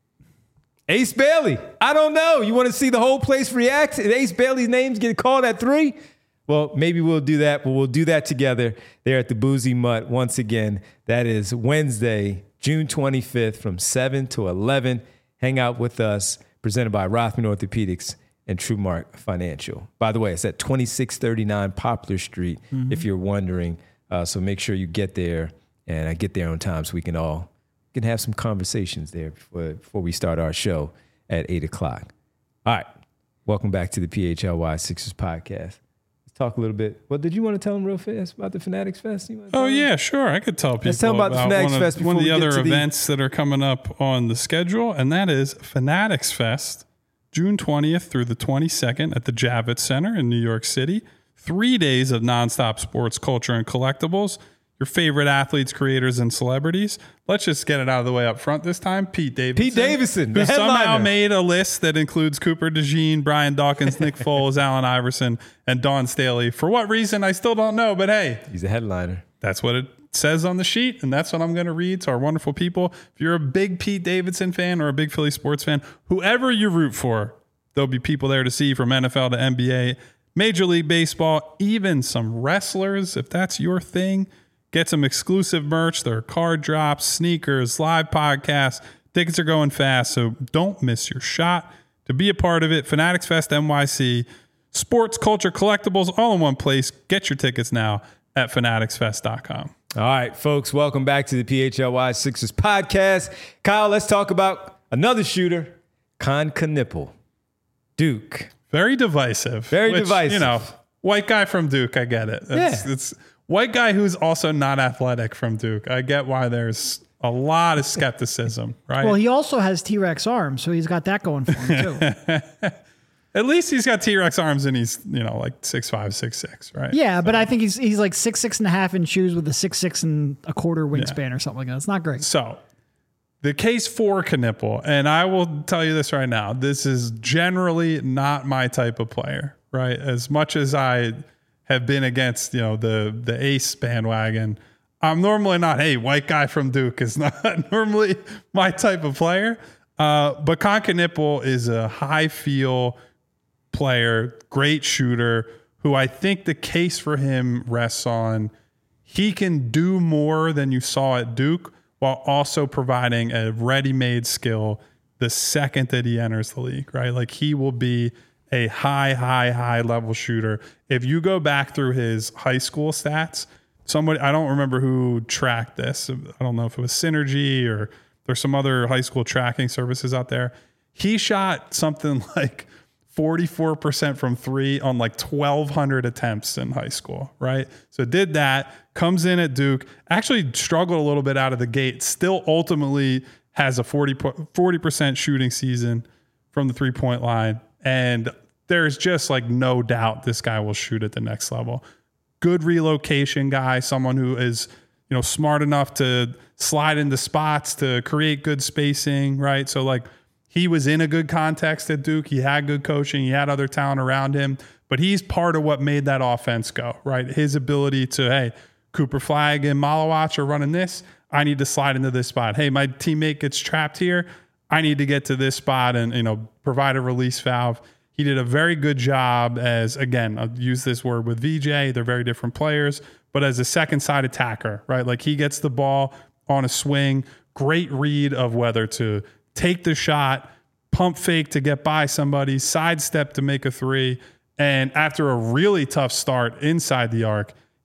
Ace Bailey? I don't know. You want to see the whole place react? And Ace Bailey's names get called at three? Well, maybe we'll do that, but we'll do that together there at the Boozy Mutt. Once again, that is Wednesday, June twenty-fifth from seven to eleven. Hang out with us, presented by Rothman Orthopedics and TrueMark Financial. By the way, it's at twenty-six thirty-nine Poplar Street, mm-hmm. if you're wondering. Uh, so make sure you get there and I get there on time so we can all can have some conversations there before, before we start our show at eight o'clock. All right. Welcome back to the P H L Y Sixers podcast. Talk a little bit. Well, did you want to tell them real fast about the Fanatics Fest? You oh, them? yeah, sure. I could tell people Let's tell about, about the Fanatics one Fest of, one of the other the... events that are coming up on the schedule, and that is Fanatics Fest, June twentieth through the twenty-second at the Javits Center in New York City. Three days of nonstop sports, culture, and collectibles. Your favorite athletes, creators, and celebrities. Let's just get it out of the way up front this time. Pete Davidson. Pete Davidson, who the somehow headliner. made a list that includes Cooper DeJean, Brian Dawkins, Nick Foles, Allen Iverson, and Dawn Staley. For what reason, I still don't know, but hey. He's a headliner. That's what it says on the sheet, and that's what I'm going to read to our wonderful people. If you're a big Pete Davidson fan or a big Philly sports fan, whoever you root for, there'll be people there to see from N F L to N B A, Major League Baseball, even some wrestlers, if that's your thing. Get some exclusive merch. There are card drops, sneakers, live podcasts. Tickets are going fast, so don't miss your shot. To be a part of it, Fanatics Fest N Y C, sports, culture, collectibles, all in one place. Get your tickets now at fanatics fest dot com. All right, folks, welcome back to the P H L Y Sixers podcast. Kyle, let's talk about another shooter, Kon Knueppel, Duke. Very divisive. Very which, divisive. You know, white guy from Duke, I get it. It's, yeah. it's white guy who's also not athletic from Duke. I get why there's a lot of skepticism, right? Well, he also has T-Rex arms, so he's got that going for him too. At least he's got T-Rex arms and he's, you know, like six five, six six, right? Yeah, so. but I think he's he's like six six and a half in shoes with a six six and a quarter wingspan yeah. or something like that. It's not great. So the case for Knueppel, and I will tell you this right now, this is generally not my type of player, right? As much as I have been against, you know, the the ace bandwagon, I'm normally not, hey, white guy from Duke is not normally my type of player. Uh, but Kon Knueppel is a high feel player, great shooter, who I think the case for him rests on he can do more than you saw at Duke while also providing a ready-made skill the second that he enters the league, right? Like he will be a high, high, high level shooter. If you go back through his high school stats, somebody, I don't remember who tracked this. I don't know if it was Synergy or there's some other high school tracking services out there. He shot something like forty-four percent from three on like twelve hundred attempts in high school, right? So did that, comes in at Duke, actually struggled a little bit out of the gate, still ultimately has a forty percent shooting season from the three-point line. And there's just like no doubt this guy will shoot at the next level. Good relocation guy, someone who is, you know, smart enough to slide into spots, to create good spacing, right? So like he was in a good context at Duke. He had good coaching. He had other talent around him, but he's part of what made that offense go, right? His ability to, hey, Cooper Flagg and Malawach are running this. I need to slide into this spot. Hey, my teammate gets trapped here. I need to get to this spot and, you know, provide a release valve. He did a very good job as, again, I'll use this word with V J. They're very different players, but as a second side attacker, right? Like he gets the ball on a swing, great read of whether to take the shot, pump fake to get by somebody, sidestep to make a three. And after a really tough start inside the arc,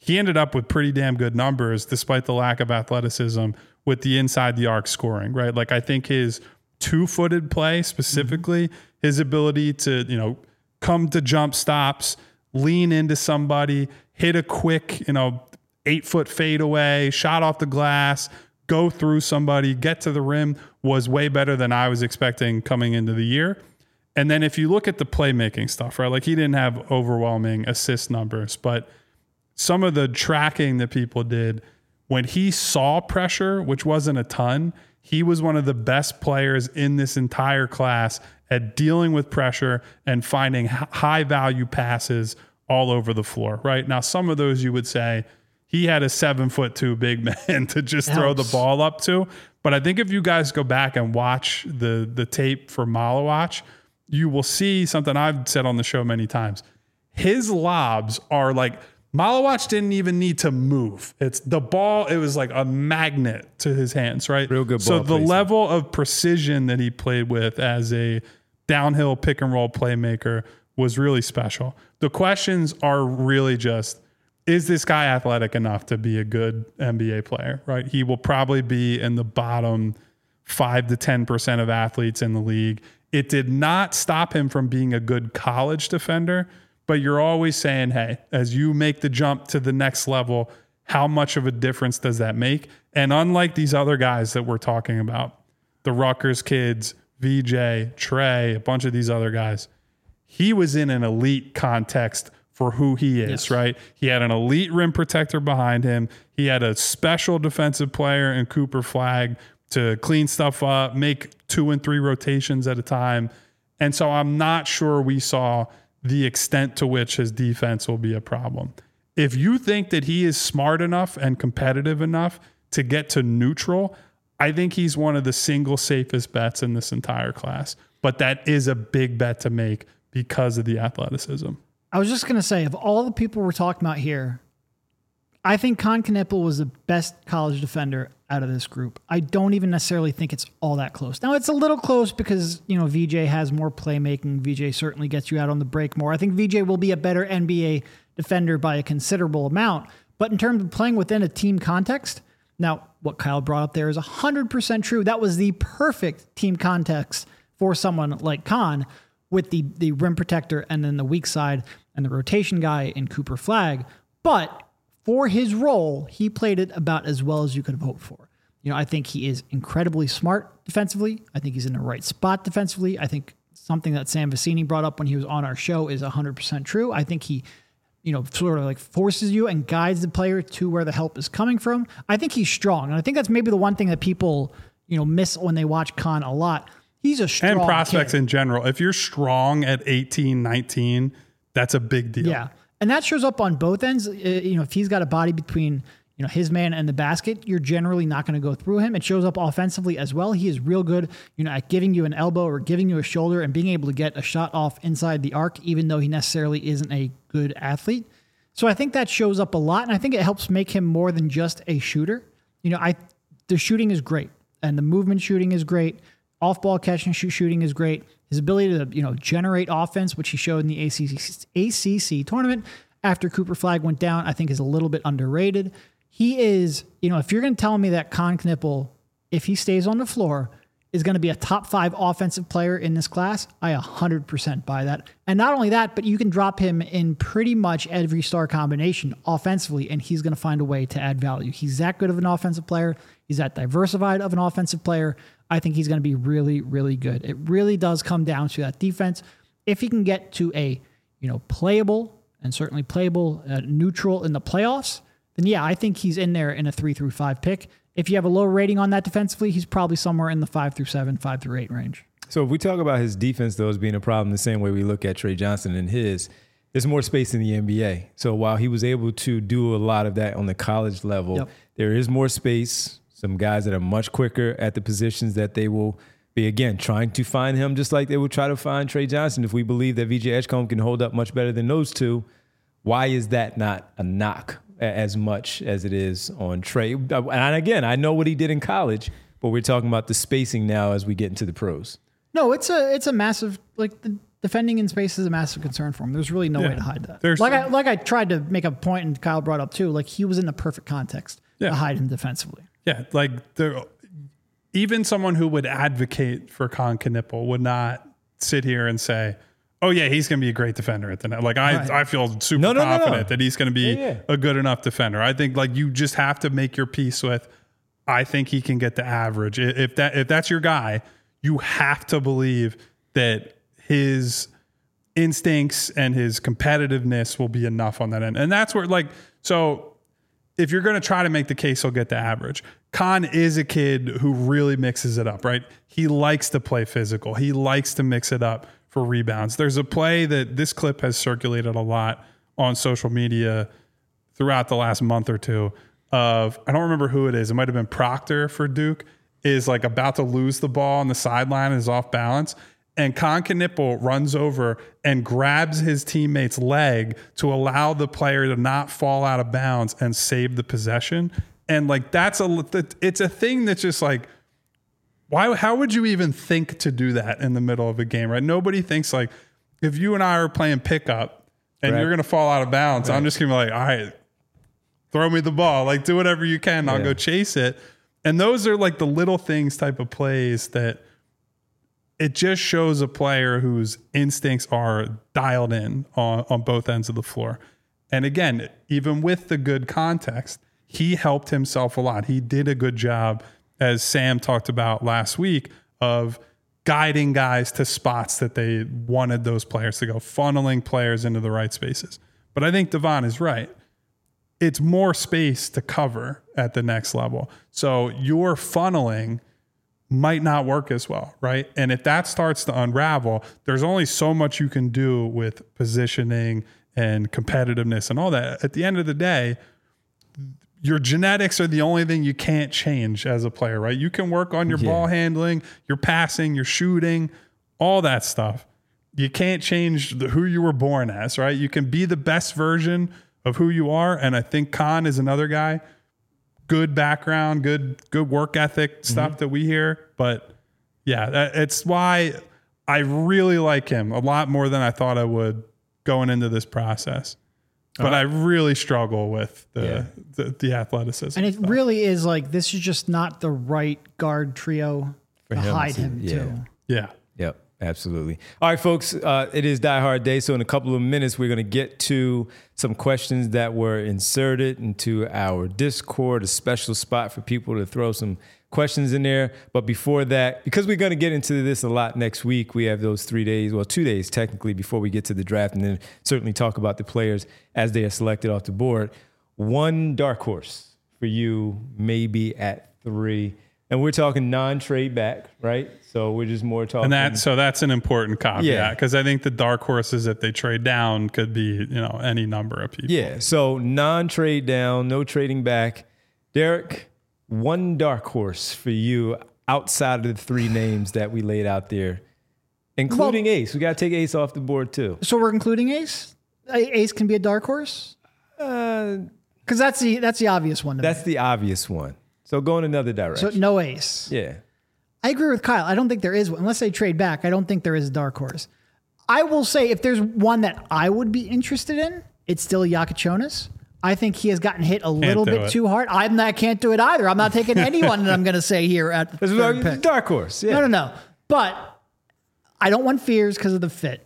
he ended up with pretty damn good numbers despite the lack of athleticism with the inside the arc scoring, right? Like I think his two-footed play specifically, mm-hmm. his ability to, you know, come to jump stops, lean into somebody, hit a quick, you know, eight-foot fadeaway, shot off the glass, go through somebody, get to the rim was way better than I was expecting coming into the year. And then if you look at the playmaking stuff, right, like he didn't have overwhelming assist numbers, but some of the tracking that people did, when he saw pressure, which wasn't a ton, he was one of the best players in this entire class at dealing with pressure and finding high value passes all over the floor, right? Now, some of those you would say he had a seven foot two big man to just throw the ball up to. But I think if you guys go back and watch the, the tape for Malawach, you will see something I've said on the show many times. His lobs are like, Malawach didn't even need to move. It's the ball. It was like a magnet to his hands, right? Real good ball So the placement. level of precision that he played with as a downhill pick and roll playmaker was really special. The questions are really just, is this guy athletic enough to be a good N B A player, right? He will probably be in the bottom five to ten percent of athletes in the league. It did not stop him from being a good college defender, but you're always saying, hey, as you make the jump to the next level, how much of a difference does that make? And unlike these other guys that we're talking about, the Rutgers kids, V J, Trey, a bunch of these other guys, he was in an elite context for who he is, yes. right? He had an elite rim protector behind him. He had a special defensive player in Cooper Flagg to clean stuff up, make two and three rotations at a time. And so I'm not sure we saw the extent to which his defense will be a problem. If you think that he is smart enough and competitive enough to get to neutral, I think he's one of the single safest bets in this entire class. But that is a big bet to make because of the athleticism. I was just going to say, of all the people we're talking about here, I think Kon Knueppel was the best college defender out of this group. I don't even necessarily think it's all that close. Now, it's a little close because, you know, V J has more playmaking. V J certainly gets you out on the break more. I think V J will be a better N B A defender by a considerable amount. But in terms of playing within a team context, now, what Kyle brought up there is one hundred percent true. That was the perfect team context for someone like Kon, with the, the rim protector and then the weak side and the rotation guy in Cooper Flagg. But for his role, he played it about as well as you could have hoped for. You know, I think he is incredibly smart defensively. I think he's in the right spot defensively. I think something that Sam Vecini brought up when he was on our show is one hundred percent true. I think he, you know, sort of like forces you and guides the player to where the help is coming from. I think he's strong. And I think that's maybe the one thing that people, you know, miss when they watch Kon a lot. He's a strong And prospects kid. in general. If you're strong at eighteen, nineteen, that's a big deal. Yeah. And that shows up on both ends. Uh, you know, if he's got a body between, you know, his man and the basket, you're generally not going to go through him. It shows up offensively as well. He is real good, you know, at giving you an elbow or giving you a shoulder and being able to get a shot off inside the arc, even though he necessarily isn't a good athlete. So I think that shows up a lot. And I think it helps make him more than just a shooter. You know, I, the shooting is great and the movement shooting is great. Off ball catch and shoot shooting is great. His ability to, you know, generate offense, which he showed in the A C C, A C C tournament after Cooper Flagg went down, I think is a little bit underrated. He is, you know, if you're going to tell me that Kon Knueppel, if he stays on the floor, is going to be a top five offensive player in this class, I one hundred percent buy that. And not only that, but you can drop him in pretty much every star combination offensively, and he's going to find a way to add value. He's that good of an offensive player. He's that diversified of an offensive player. I think he's going to be really, really good. It really does come down to that defense. If he can get to a, you know, playable and certainly playable uh, neutral in the playoffs, then yeah, I think he's in there in a three through five pick. If you have a low rating on that defensively, he's probably somewhere in the five through seven, five through eight range. So if we talk about his defense, though, as being a problem the same way we look at Trey Johnson and his, there's more space in the N B A. So while he was able to do a lot of that on the college level, yep. there is more space. Some guys that are much quicker at the positions that they will be, again, trying to find him just like they will try to find Trey Johnson. If we believe that V J Edgecombe can hold up much better than those two, why is that not a knock as much as it is on Trey? And again, I know what he did in college, but we're talking about the spacing now as we get into the pros. No, it's a it's a massive like the defending in space is a massive concern for him. There's really no Yeah. way to hide that. There's like some- I like I tried to make a point and Kyle brought up too. Like he was in the perfect context Yeah. to hide him defensively. Yeah, like there, even someone who would advocate for Con Knipple would not sit here and say, "Oh yeah, he's going to be a great defender at the net." Like I, Right. I feel super No, no, no, no. confident that he's going to be Yeah, yeah. a good enough defender. I think like you just have to make your peace with. I think he can get the average. I- If that if that's your guy, you have to believe that his instincts and his competitiveness will be enough on that end. And that's where like so. If you're going to try to make the case, he'll get the average. Con is a kid who really mixes it up, right? He likes to play physical. He likes to mix it up for rebounds. There's a play that this clip has circulated a lot on social media throughout the last month or two of, I don't remember who it is. It might have been Proctor for Duke, is like about to lose the ball on the sideline and is off balance. And Con Knipple runs over and grabs his teammate's leg to allow the player to not fall out of bounds and save the possession. And like that's a it's a thing that's just like, why? How would you even think to do that in the middle of a game, right? Nobody thinks like, if you and I are playing pickup and Right. you're gonna fall out of bounds, I'm just gonna be like, all right, throw me the ball, like do whatever you can, I'll Yeah. go chase it. And those are like the little things type of plays that. It just shows a player whose instincts are dialed in on, on both ends of the floor. And again, even with the good context, he helped himself a lot. He did a good job, as Sam talked about last week, of guiding guys to spots that they wanted those players to go, funneling players into the right spaces. But I think Devon is right. It's more space to cover at the next level. So your funneling might not work as well, right? And if that starts to unravel, there's only so much you can do with positioning and competitiveness and all that. At the end of the day, your genetics are the only thing you can't change as a player, right? You can work on your Yeah. ball handling, your passing, your shooting, all that stuff. You can't change the, who you were born as, right? You can be the best version of who you are. And I think Con is another guy. Good background, good good work ethic stuff Mm-hmm. that we hear. But yeah, that, it's why I really like him a lot more than I thought I would going into this process. But I really struggle with the Yeah. the, the athleticism. And it stuff. really is like this is just not the right guard trio to him hide to- him yeah. too. yeah. Yep, absolutely. All right, folks, uh, it is Die Hard Day. So in a couple of minutes, we're going to get to some questions that were inserted into our Discord, a special spot for people to throw some questions in there. But before that, because we're going to get into this a lot next week, we have those three days, well, two days technically before we get to the draft, and then certainly talk about the players as they are selected off the board. One dark horse for you, maybe at three. And we're talking non-trade back, right? So we're just more talking. And that so that's an important Yeah. caveat because I think the dark horses, if they trade down, could be you know any number of people. Yeah, so non-trade down, no trading back. Derek, one dark horse for you outside of the three names that we laid out there, including Well- Ace. We got to take Ace off the board too. So we're including Ace. A- Ace can be a dark horse Uh, because that's the that's the obvious one. To that's me. the obvious one. So go in another So direction. no Ace. yeah. I agree with Kyle. I don't think there is one. Unless they trade back, I don't think there is a dark horse. I will say if there's one that I would be interested in, it's still Yakachonis. I think he has gotten hit a little do bit it. too hard. I'm not can't do it either. I'm not taking anyone that I'm going to say here at the This is third a pick. dark horse. Yeah. No, no, no. But I don't want Fears because of the fit.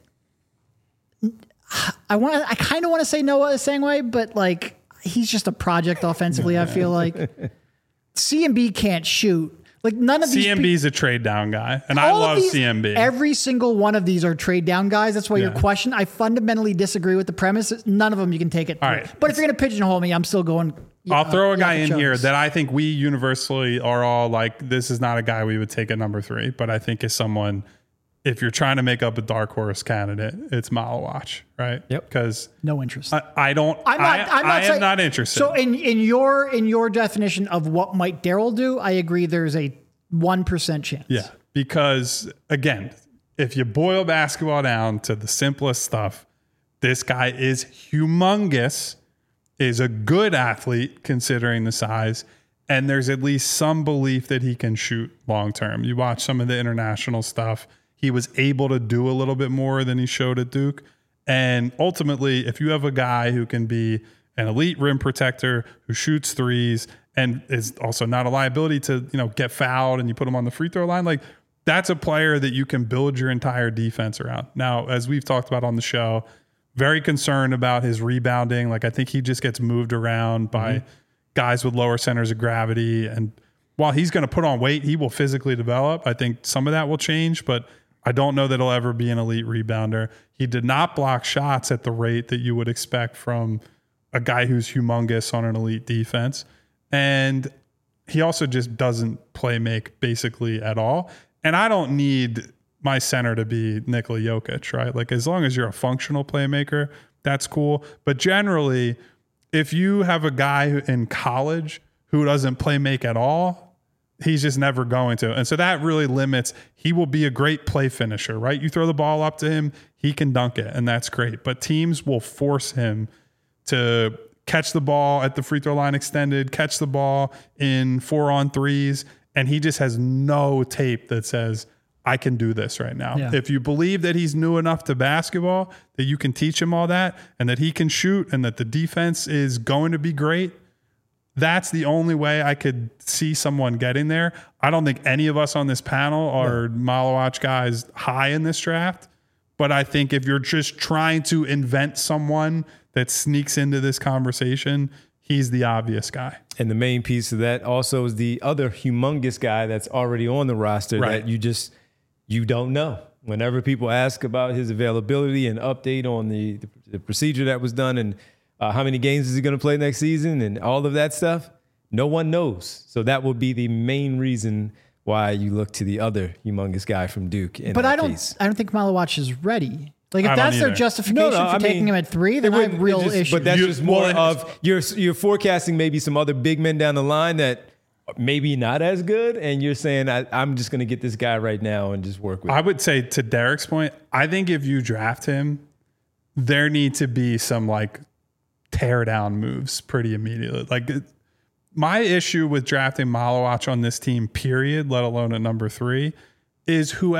I want. I kind of want to say Noah Sangway, but like he's just a project offensively. I feel like C M B can't shoot. Like none of these. C M pe- B's a trade down guy, and I all of love these- C M B. Every single one of these are trade down guys. That's why your Yeah. question. I fundamentally disagree with the premise. None of them you can take it. All through. right. But if you're going to pigeonhole me, I'm still going. I'll uh, throw a guy in Yakachonis. here that I think we universally are all like, this is not a guy we would take at number three, but I think is someone, if you're trying to make up a dark horse candidate, it's Malawach, right? Yep. Because No interest. I, I don't, I'm not. I, I'm not I saying, am not interested. So in in your in your definition of what might Daryl do, I agree. There's a one percent chance. Yeah, because again, if you boil basketball down to the simplest stuff, this guy is humongous, is a good athlete considering the size, and there's at least some belief that he can shoot long term. You watch some of the international stuff, he was able to do a little bit more than he showed at Duke. And ultimately, if you have a guy who can be an elite rim protector, who shoots threes, and is also not a liability to, you know, get fouled and you put him on the free throw line, like that's a player that you can build your entire defense around. Now, as we've talked about on the show, very concerned about his rebounding. Like I think he just gets moved around by mm-hmm. guys with lower centers of gravity. And while he's going to put on weight, he will physically develop. I think some of that will change, but I don't know that he'll ever be an elite rebounder. He did not block shots at the rate that you would expect from a guy who's humongous on an elite defense. And he also just doesn't play make basically at all. And I don't need my center to be Nikola Jokic, right? Like as long as you're a functional playmaker, that's cool. But generally, if you have a guy who, in college who doesn't play make at all, he's just never going to. And so that really limits, he will be a great play finisher, right? You throw the ball up to him, he can dunk it, and that's great. But teams will force him to catch the ball at the free throw line extended, catch the ball in four on threes, and he just has no tape that says, I can do this right now. Yeah. If you believe that he's new enough to basketball, that you can teach him all that, and that he can shoot, and that the defense is going to be great, that's the only way I could see someone getting there. I don't think any of us on this panel are no. Malawach guys high in this draft, but I think if you're just trying to invent someone that sneaks into this conversation, he's the obvious guy. And the main piece of that also is the other humongous guy that's already on the roster right. that you just, you don't know. Whenever people ask about his availability and update on the, the, the procedure that was done and uh, how many games is he going to play next season and all of that stuff, no one knows. So that will be the main reason why you look to the other humongous guy from Duke. In but that I don't, case. I don't think Malawach is ready. Like if I that's their either. justification no, no, for I taking mean, him at three, then I have real just, issues. But that's You- just more well, of you're you're forecasting maybe some other big men down the line that maybe not as good, and you're saying I, I'm just going to get this guy right now and just work with. I him. would say to Derek's point, I think if you draft him, there need to be some like tear down moves pretty immediately. Like it, my issue with drafting Malawach on this team, period, let alone at number three, is who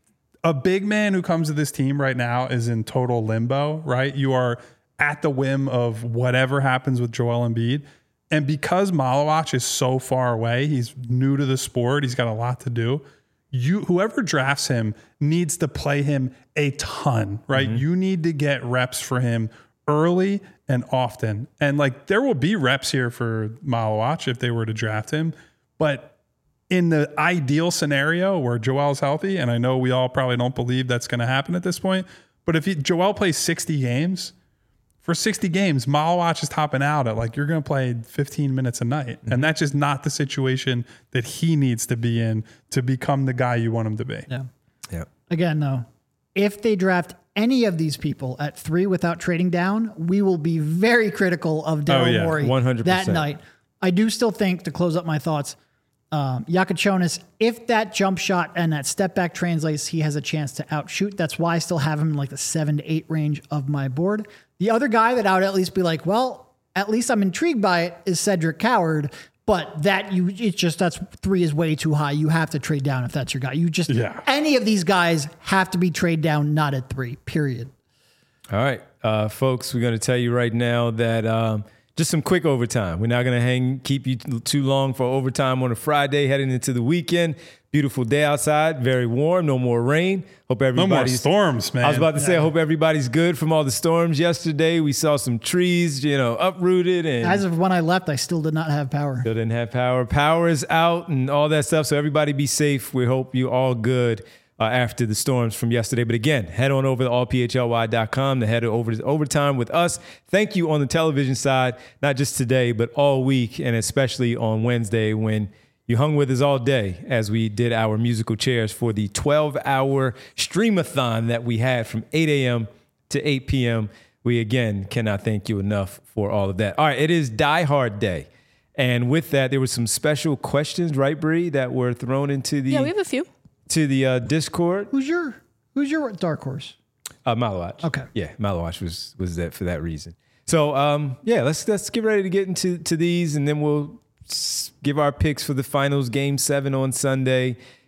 a big man who comes to this team right now is in total limbo, right? You are at the whim of whatever happens with Joel Embiid. And because Malawach is so far away, he's new to the sport, he's got a lot to do. You, whoever drafts him needs to play him a ton, right? Mm-hmm. You need to get reps for him early and often. And like there will be reps here for Malawach if they were to draft him. But in the ideal scenario where Joel's healthy, and I know we all probably don't believe that's going to happen at this point, but if he, Joel plays sixty games, for sixty games, Malawach is topping out at like, you're going to play fifteen minutes a night. Mm-hmm. And that's just not the situation that he needs to be in to become the guy you want him to be. Yeah. Yeah. Again, though, if they draft any of these people at three without trading down, we will be very critical of Daryl Oh, yeah. Morey one hundred percent. that night. I do still think, to close up my thoughts, um, Yakachonis, if that jump shot and that step back translates, he has a chance to outshoot. That's why I still have him in like the seven to eight range of my board. The other guy that I would at least be like, well, at least I'm intrigued by it is Cedric Coward. But that you, it's just, that's three is way too high. You have to trade down if that's your guy. You just, yeah. any of these guys have to be trade down, not at three, period. All right, uh, folks, we're going to tell you right now that um, just some quick overtime. We're not going to hang, keep you too long for overtime on a Friday heading into the weekend. Beautiful day outside, very warm, no more rain. Hope everybody's... No more storms, man. I was about to say, Yeah. I hope everybody's good from all the storms yesterday. We saw some trees, you know, uprooted and... As of when I left, I still did not have power. Still didn't have power. Power is out and all that stuff. So everybody be safe. We hope you all good uh, after the storms from yesterday. But again, head on over to all p h l y dot com to head over to overtime with us. Thank you on the television side, not just today, but all week, and especially on Wednesday when you hung with us all day as we did our musical chairs for the twelve-hour streamathon that we had from eight a.m. to eight p.m. We, again, cannot thank you enough for all of that. All right, it is Die Hard Day. And with that, there were some special questions, right, Bree, that were thrown into the Yeah, we have a few. to the uh, Discord. Who's your Who's your dark horse? Uh, Malawach. Okay. Yeah, Malawach was was that for that reason. So um, yeah, let's let's get ready to get into to these, and then we'll s- give our picks for the finals, Game Seven on Sunday,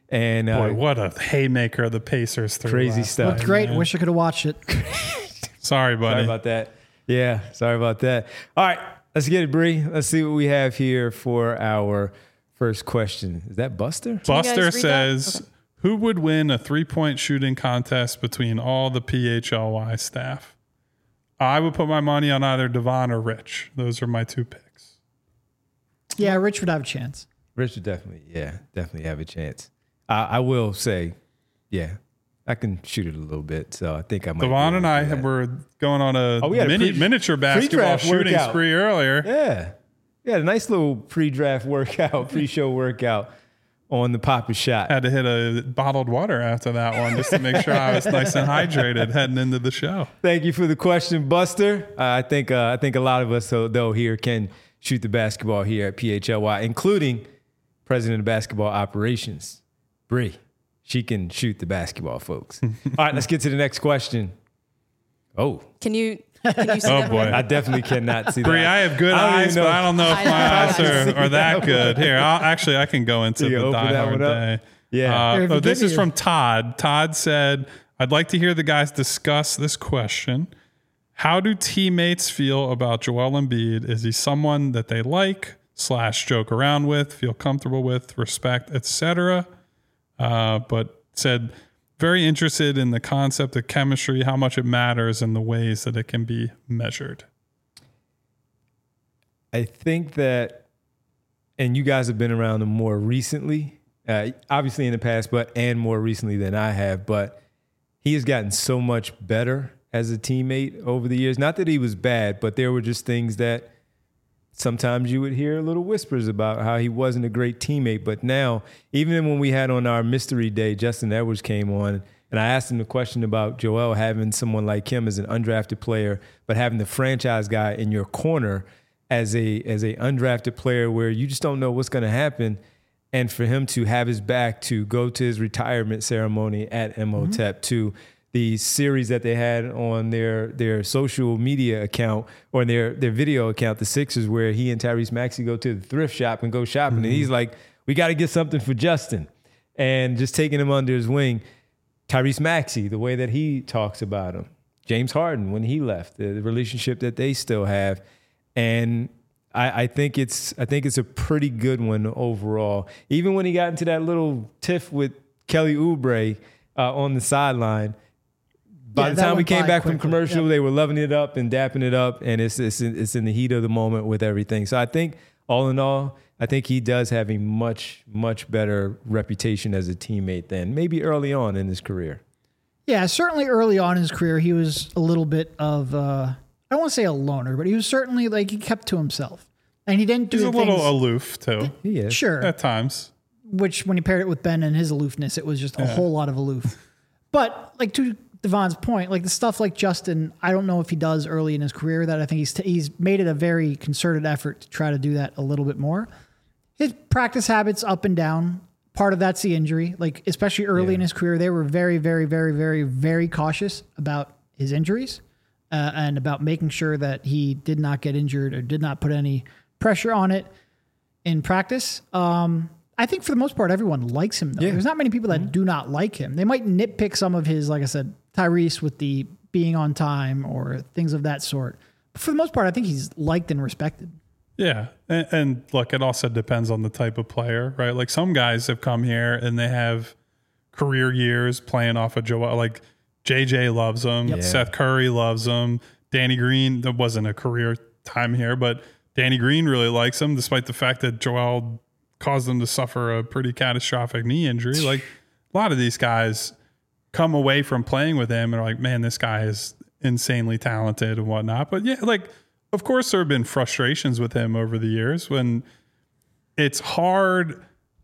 And uh, Boy, what a haymaker the Pacers threw. Crazy last stuff. Looked great. Wish I could have watched it. Sorry, buddy. Sorry about that. Yeah, sorry about that. All right, let's get it, Bree. Let's see what we have here for our first question. Is that Buster? Buster says, okay. Who would win a three-point shooting contest between all the P H L Y staff? I would put my money on either Devon or Rich. Those are my two picks. Yeah, Rich would have a chance. Rich would definitely, yeah, definitely have a chance. I, I will say, yeah, I can shoot it a little bit, so I think I might. Devon and I have, were going on a, oh, we had mini, a pre, miniature basketball shooting workout. spree earlier. Yeah, we had a nice little pre-draft workout, pre-show workout on the Papa Shot. Had to hit a bottled water after that one just to make sure I was nice and hydrated heading into the show. Thank you for the question, Buster. Uh, I think uh, I think a lot of us, though, though, here can shoot the basketball here at P H L Y, including President of Basketball Operations, Bree. She can shoot the basketball, folks. All right, let's get to the next question. Oh. Can you, can you see oh, that? boy. I definitely cannot see that. Bree, I have good I eyes, but I don't know if my eyes are, are that good. Here, I'll, actually, I can go into you the Die Hard Day. Yeah. Uh, oh, this is from Todd. Todd said, I'd like to hear the guys discuss this question. How do teammates feel about Joel Embiid? Is he someone that they like, slash joke around with, feel comfortable with, respect, et cetera? Uh, but said, very interested in the concept of chemistry, how much it matters, and the ways that it can be measured. I think that, and you guys have been around him more recently, uh, obviously in the past, but and more recently than I have, but he has gotten so much better as a teammate over the years. Not that he was bad, but there were just things that sometimes you would hear little whispers about how he wasn't a great teammate. But now, even when we had on our mystery day, Justin Edwards came on, and I asked him the question about Joel having someone like him as an undrafted player, but having the franchise guy in your corner as a as a undrafted player where you just don't know what's going to happen. And for him to have his back, to go to his retirement ceremony at M O T E P, mm-hmm. to the series that they had on their their social media account or their their video account, the Sixers, where he and Tyrese Maxey go to the thrift shop and go shopping. Mm-hmm. And he's like, we got to get something for Justin. And just taking him under his wing. Tyrese Maxey, the way that he talks about him. James Harden, when he left, the, the relationship that they still have. And I, I think it's I think it's a pretty good one overall. Even when he got into that little tiff with Kelly Oubre uh, on the sideline, by yeah, the time we came back quickly. from commercial, yep. they were loving it up and dapping it up, and it's it's in, it's in the heat of the moment with everything. So I think all in all, I think he does have a much, much better reputation as a teammate than maybe early on in his career. Yeah, certainly early on in his career, he was a little bit of, uh, I don't want to say a loner, but he was certainly like he kept to himself. And he didn't do He's a things, little aloof, too. He is. Sure. At times. Which, when you paired it with Ben and his aloofness, it was just a Yeah. whole lot of aloof. But, like, to Devon's point, like the stuff like Justin, I don't know if he does early in his career that I think he's, t- he's made it a very concerted effort to try to do that a little bit more. His practice habits up and down. Part of that's the injury. Like, especially early Yeah. in his career, they were very, very, very, very, very cautious about his injuries uh, and about making sure that he did not get injured or did not put any pressure on it in practice. Um, I think for the most part, everyone likes him, though. Yeah. There's not many people that mm-hmm. do not like him. They might nitpick some of his, like I said, Tyrese with the being on time or things of that sort. But for the most part, I think he's liked and respected. Yeah. And, and look, it also depends on the type of player, right? Like some guys have come here and they have career years playing off of Joel. Like J J loves him. Yep. Seth Curry loves him. Danny Green, that wasn't a career time here, but Danny Green really likes him despite the fact that Joel caused him to suffer a pretty catastrophic knee injury. Like a lot of these guys come away from playing with him and are like, man, this guy is insanely talented and whatnot. But yeah, like, of course, there have been frustrations with him over the years when it's hard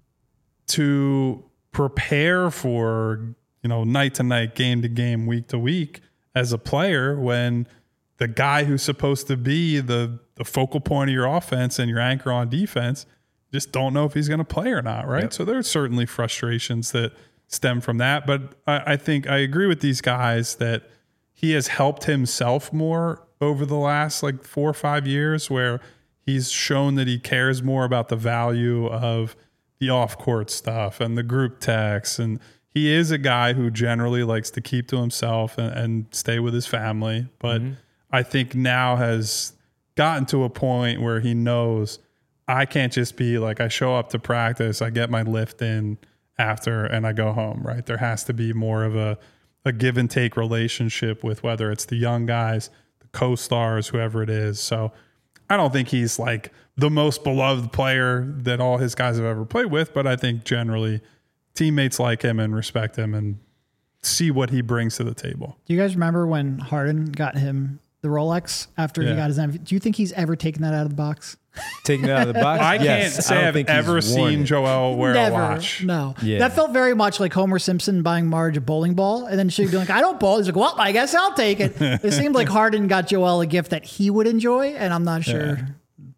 to prepare for, you know, night to night, game to game, week to week as a player when the guy who's supposed to be the, the focal point of your offense and your anchor on defense just don't know if he's going to play or not, right? Yep. So there are certainly frustrations that stem from that. But I, I think I agree with these guys that he has helped himself more over the last like four or five years where he's shown that he cares more about the value of the off court stuff and the group texts. And he is a guy who generally likes to keep to himself and, and stay with his family. But mm-hmm. I think now has gotten to a point where he knows I can't just be like, I show up to practice, I get my lift in after and I go home, right? There has to be more of a, a give and take relationship with whether it's the young guys, the co-stars, whoever it is. So I don't think he's like the most beloved player that all his guys have ever played with, but I think generally teammates like him and respect him and see what he brings to the table. Do you guys remember when Harden got him the Rolex after yeah. he got his M V P? Do you think he's ever taken that out of the box? Taking it out of the box? I yes, can't say I I've ever seen it. Joel wear Never, a watch. No. Yeah. That felt very much like Homer Simpson buying Marge a bowling ball, and then she'd be like, I don't bowl. He's like, well, I guess I'll take it. It seemed like Harden got Joel a gift that he would enjoy, and I'm not sure. Yeah.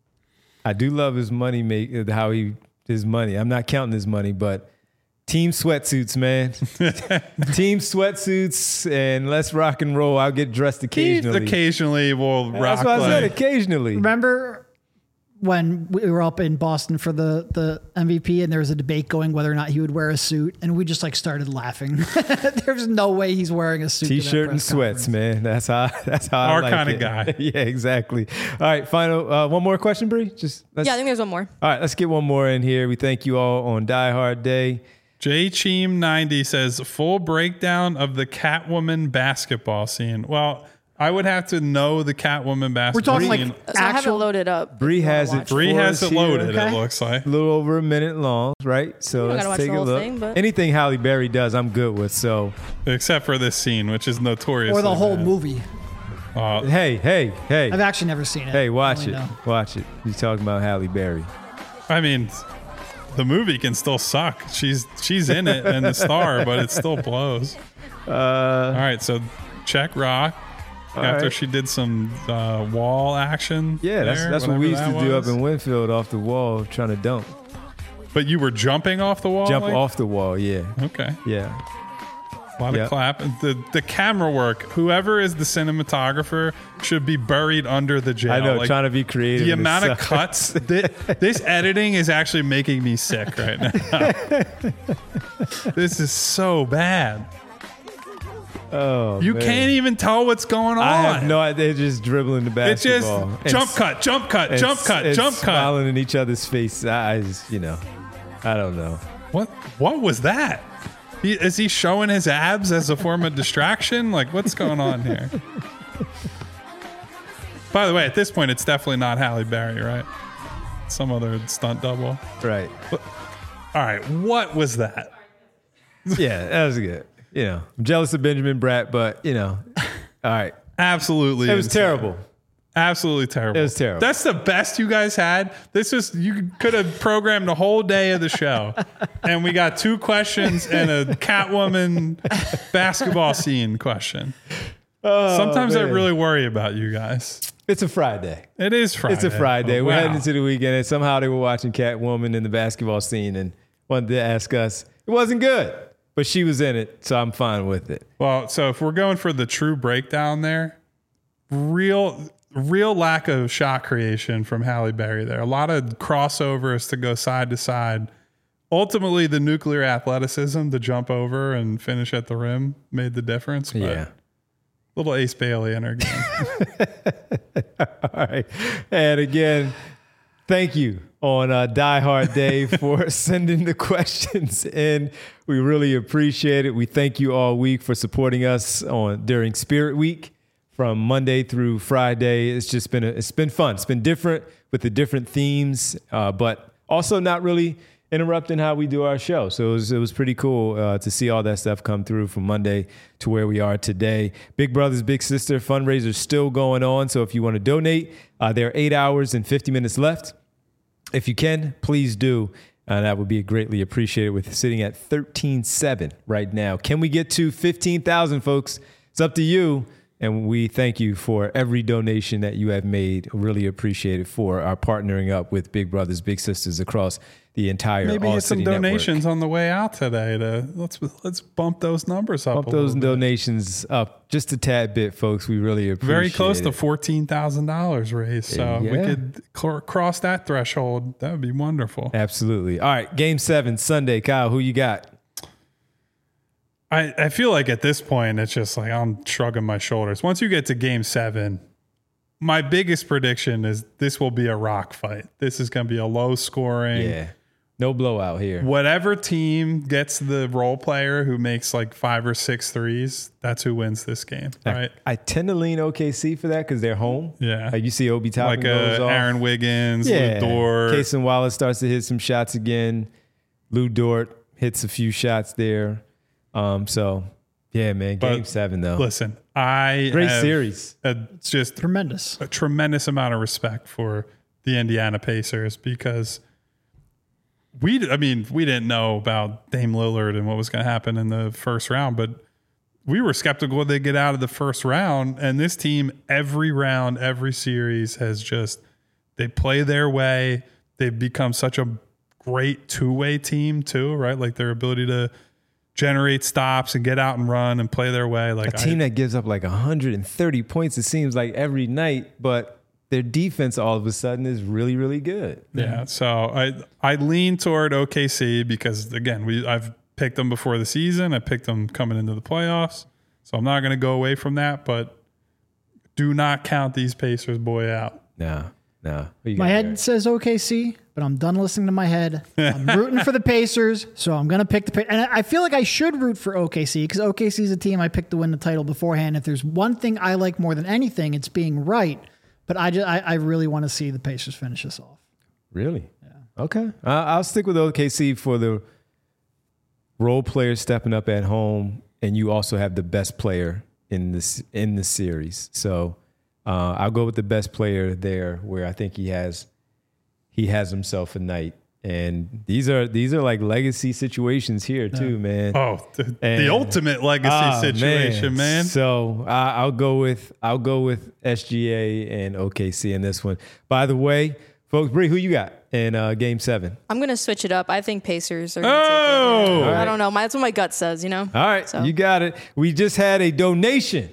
I do love his money, make how he his money. I'm not counting his money, but team sweatsuits, man. Team sweatsuits, and let's rock and roll. I'll get dressed occasionally. He occasionally will rock. That's what like, I said, occasionally. Remember when we were up in Boston for the, the M V P and there was a debate going whether or not he would wear a suit, and we just like started laughing. There's no way he's wearing a suit. T-shirt and sweats, conference. Man. That's how that's how Our I like kind it. of guy. Yeah, exactly. All right, final uh, one more question, Bree. Just let's, yeah, I think there's one more. All right, let's get one more in here. We thank you all on Die Hard Day. J Cheem ninety says full breakdown of the Catwoman basketball scene. Well, I would have to know the Catwoman basketball We're talking scene. like So I have it actual. loaded up. Bree has it. Bree for has us it loaded, here. it Okay. looks like. A little over a minute long, right? So You don't let's gotta watch take the a whole look. thing, but- Anything Halle Berry does, I'm good with. So Except for this scene, which is notorious. Or the whole movie. Uh, hey, hey, hey, I've actually never seen it. hey, watch I it, only know. watch it. He's talking about Halle Berry. I mean, the movie can still suck. She's she's in it and the star, but it still blows. Uh, All right, so check Rock. After right. she did some uh, wall action. yeah, that's there, that's what we used whatever to that do was. up in Winfield, off the wall, trying to dunk, But you were jumping off the wall? jump like? off the wall. Yeah, Okay. yeah. A lot Yep. of clap. The the camera work, whoever is the cinematographer should be buried under the jail. I know, Like, trying to be creative. the and amount of stuff. cuts. This, this editing is actually making me sick right now. This is so bad. Oh, You man. can't even tell what's going on. I have no idea. They're just dribbling the It's just basketball. And jump s- cut, jump cut, and jump s- cut, and jump cut. smiling in each other's face. I just, you know, I don't know. What what was that? He, is he showing his abs as a form of distraction? Like, what's going on here? By the way, at this point, it's definitely not Halle Berry, right? Some other stunt double. Right. All right, what was that? Yeah, that was good. You know, I'm jealous of Benjamin Bratt, but you know, all right. Absolutely, It was insane. terrible. Absolutely terrible. It was terrible. That's the best you guys had. This was you could have programmed the whole day of the show, and we got two questions and a Catwoman basketball scene question. Sometimes I man. really worry about you guys. It's a Friday. It is Friday. It's a Friday. Oh, We're wow. heading into the weekend, and somehow they were watching Catwoman in the basketball scene and wanted to ask us. It wasn't good, but she was in it, so I'm fine with it. Well, so if we're going for the true breakdown there, real real lack of shot creation from Halle Berry there. A lot of crossovers to go side to side. Ultimately, the nuclear athleticism to jump over and finish at the rim made the difference. But Yeah. little Ace Bailey in her game. All right. And again, thank you on uh, Die Hard Day for sending the questions in. We really appreciate it. We thank you all week for supporting us on during Spirit Week from Monday through Friday. It's just been a, it's been fun. It's been different with the different themes, uh, but also not really interrupting how we do our show. So it was, it was pretty cool uh, to see all that stuff come through from Monday to where we are today. Big Brothers Big Sister fundraiser still going on. So if you want to donate, uh, there are eight hours and fifty minutes left. If you can, please do. Uh, that would be greatly appreciated with sitting at thirteen seven right now. Can we get to fifteen thousand, folks? It's up to you. And we thank you for every donation that you have made. Really appreciate it for our partnering up with Big Brothers Big Sisters across the entire Maybe All get some City donations Network. on the way out today. To let's let's bump those numbers up. Bump a those little bit. donations up just a tad bit, folks. We really appreciate it. Very close to fourteen thousand dollars raised. So we Yeah. could cl- cross that threshold. That would be wonderful. Absolutely. All right, Game Seven Sunday. Kyle, who you got? I, I feel like at this point, it's just like I'm shrugging my shoulders. Once you get to game seven, my biggest prediction is this will be a rock fight. This is going to be a low scoring. Yeah, no blowout here. Whatever team gets the role player who makes like five or six threes, that's who wins this game, right? I, I tend to lean O K C for that because they're home. Yeah. Like you see Obi Toppin Like goes uh, off. Aaron Wiggins, Yeah. Lou Dort. Kason Wallace starts to hit some shots again. Lou Dort hits a few shots there. Um, so, yeah, man, game But seven, though. Listen, I Great have series. A, it's just Tremendous. a tremendous amount of respect for the Indiana Pacers because we, I mean, we didn't know about Dame Lillard and what was going to happen in the first round, but we were skeptical they'd get out of the first round. And this team, every round, every series has just, they play their way. They've become such a great two-way team too, right? Like their ability to generate stops and get out and run and play their way. Like A team I, that gives up like one hundred thirty points, it seems like every night, but their defense all of a sudden is really, really good. Yeah, so I I lean toward O K C because again, we I've picked them before the season. I picked them coming into the playoffs, so I'm not going to go away from that. But do not count these Pacers boy out. No, no. Who you My got, head Eric? says O K C, but I'm done listening to my head. I'm rooting for the Pacers, so I'm going to pick the Pacers. And I feel like I should root for O K C because O K C is a team I picked to win the title beforehand. If there's one thing I like more than anything, it's being right. But I, just, I, I really want to see the Pacers finish this off. Really? Yeah. Okay. Uh, I'll stick with O K C for the role players stepping up at home, and you also have the best player in this in the series. So uh, I'll go with the best player there, where I think he has he has himself a night. And these are these are like legacy situations here too, man. Oh, the, And- the ultimate legacy Ah, situation, man. So I, I'll go with I'll go with S G A and O K C in this one. By the way, folks, Bree, who you got in uh, Game Seven? I'm gonna switch it up. I think Pacers are. Gonna Oh! take it. All I don't know. My, that's what my gut says. You know. All right, So- you got it. We just had a donation.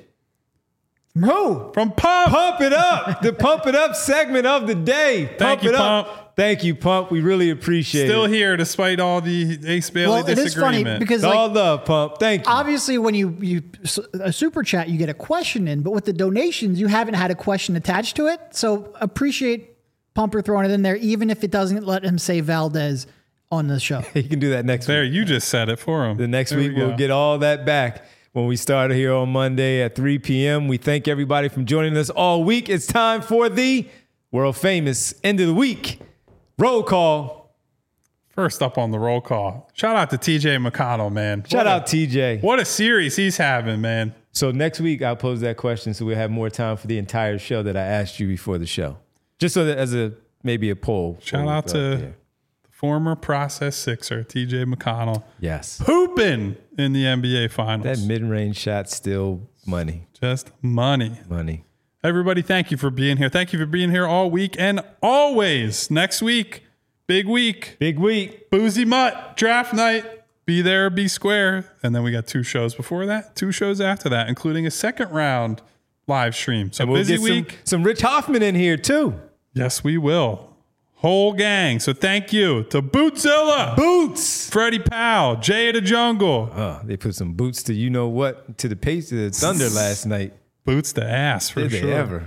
Who? From Pump. Pump it up, the Pump It Up segment of the day. Pump you, it up. Pump. Thank you, Pump. We really appreciate Still it. here despite all the Ace Bailey Well, it is funny disagreement. because It's all like, love, Pump. Thank you. obviously when you, you a super chat, you get a question in, but with the donations, you haven't had a question attached to it. So appreciate Pumper throwing it in there, even if it doesn't let him say Valdez on the show. You can do that next there, week. you just said it for him. The next There week, we we'll go. get all that back when we start here on Monday at three p.m. We thank everybody for joining us all week. It's time for the world famous end of the week roll call. First up on the roll call. Shout out to T J McConnell, man. Shout What a- out T J. What a series he's having, man. So next week, I'll pose that question so we'll have more time for the entire show that I asked you before the show. Just so that as a maybe a poll. Shout out to former process Sixer, T J McConnell, Yes. pooping in the N B A Finals. That mid-range shot still money. Just money. Money. Everybody, thank you for being here. Thank you for being here all week and always. Next week, big week. Big week. Boozy Mutt, draft night. Be there, be square. And then we got two shows before that, two shows after that, including a second round live stream. So And we'll busy get week. some, some Rich Hoffman in here too. Yes, we will. Whole gang. So thank you to Bootzilla, Boots. Freddie Powell, Jay of the Jungle, Oh, they put some boots to you know what to the pace to the Thunder last night. Boots the ass for Did they sure. ever?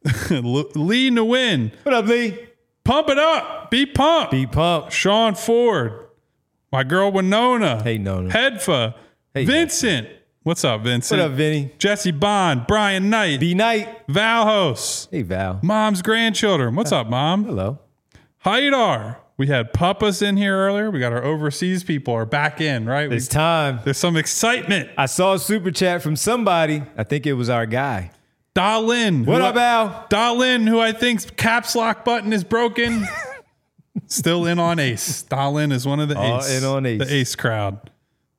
Lee Nguyen, What up, Lee? pump it up, be pumped. Be pumped. Sean Ford, my girl Winona, Hey, Nona. Hedfa, Hey, Vincent. What's up, Vincent? What up, Vinny? Jesse Bond, Brian Knight, B Night. Valhos, Hey, Val. Mom's grandchildren. What's up, Mom? Hello. Haidar. We had Papas in here earlier. We got our overseas people are back in, right? We- It's time. there's some excitement. I saw a super chat from somebody. I think it was our guy. Dalin. What who up, I- Al? Dalin, who I think's caps lock button is broken. Still in on Ace. Dalin is one of the All Ace. in on Ace. The Ace crowd.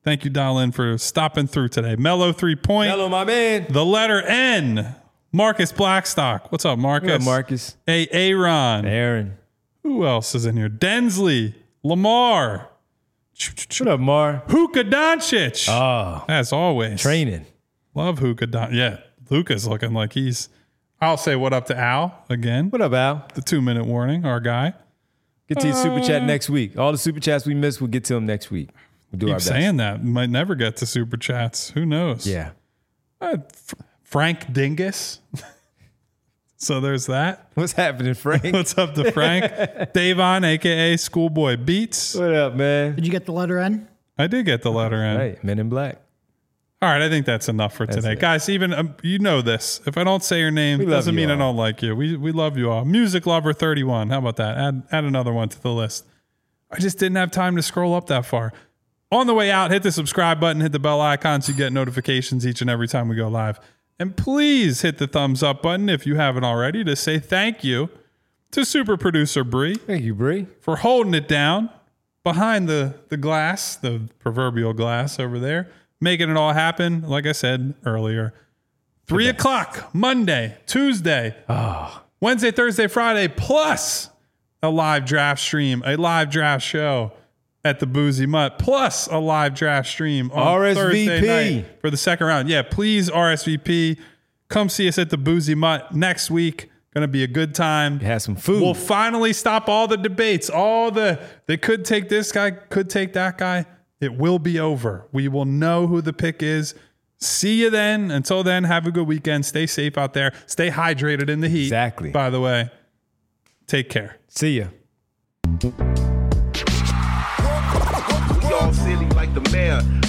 Thank you, Dial In, for stopping through today. Mellow three point. Hello, my man. The letter N. Marcus Blackstock. What's up, Marcus? What up, Marcus? Hey, Aaron. Aaron. Who else is in here? Densley. Lamar. What up, Mar? Hookah Doncic. Oh, As always. training. Love Hookah Doncic. Yeah, Luka's looking like he's... I'll say what up to Al again. What up, Al? The two-minute warning, our guy. Get to your super chat next week. All the super chats we missed, we'll get to them next week. We'll do Keep our best. saying that. Might never get to super chats. Who knows? Yeah. Uh, F- Frank Dingus. So there's that. What's happening, Frank? What's up to Frank? Davon, a k a. Schoolboy Beats. What up, man? Did you get the letter N? I did get the letter in. Hey, Men in Black. All right, I think that's enough for today. it. Guys, even um, you know this. If I don't say your name, We it love doesn't you mean I all. don't like you. We we love you all. Music Lover thirty-one. How about that? Add add another one to the list. I just didn't have time to scroll up that far. On the way out, hit the subscribe button, hit the bell icon so you get notifications each and every time we go live. And please hit the thumbs up button if you haven't already to say thank you to super producer Bree Thank you, Bree. for holding it down behind the, the glass, the proverbial glass over there, making it all happen. Like I said earlier, three o'clock, Monday, Tuesday, Wednesday, Thursday, Friday, plus a live draft stream, a live draft show at the Boozy Mutt, plus a live draft stream on R S V P. Thursday night for the second round. Yeah, please R S V P. Come see us at the Boozy Mutt next week. Going to be a good time. Have some food. We'll finally stop all the debates. All the, they could take this guy, could take that guy. It will be over. We will know who the pick is. See you then. Until then, have a good weekend. Stay safe out there. Stay hydrated in the heat. Exactly. By the way, take care. See ya. We all silly like the mayor.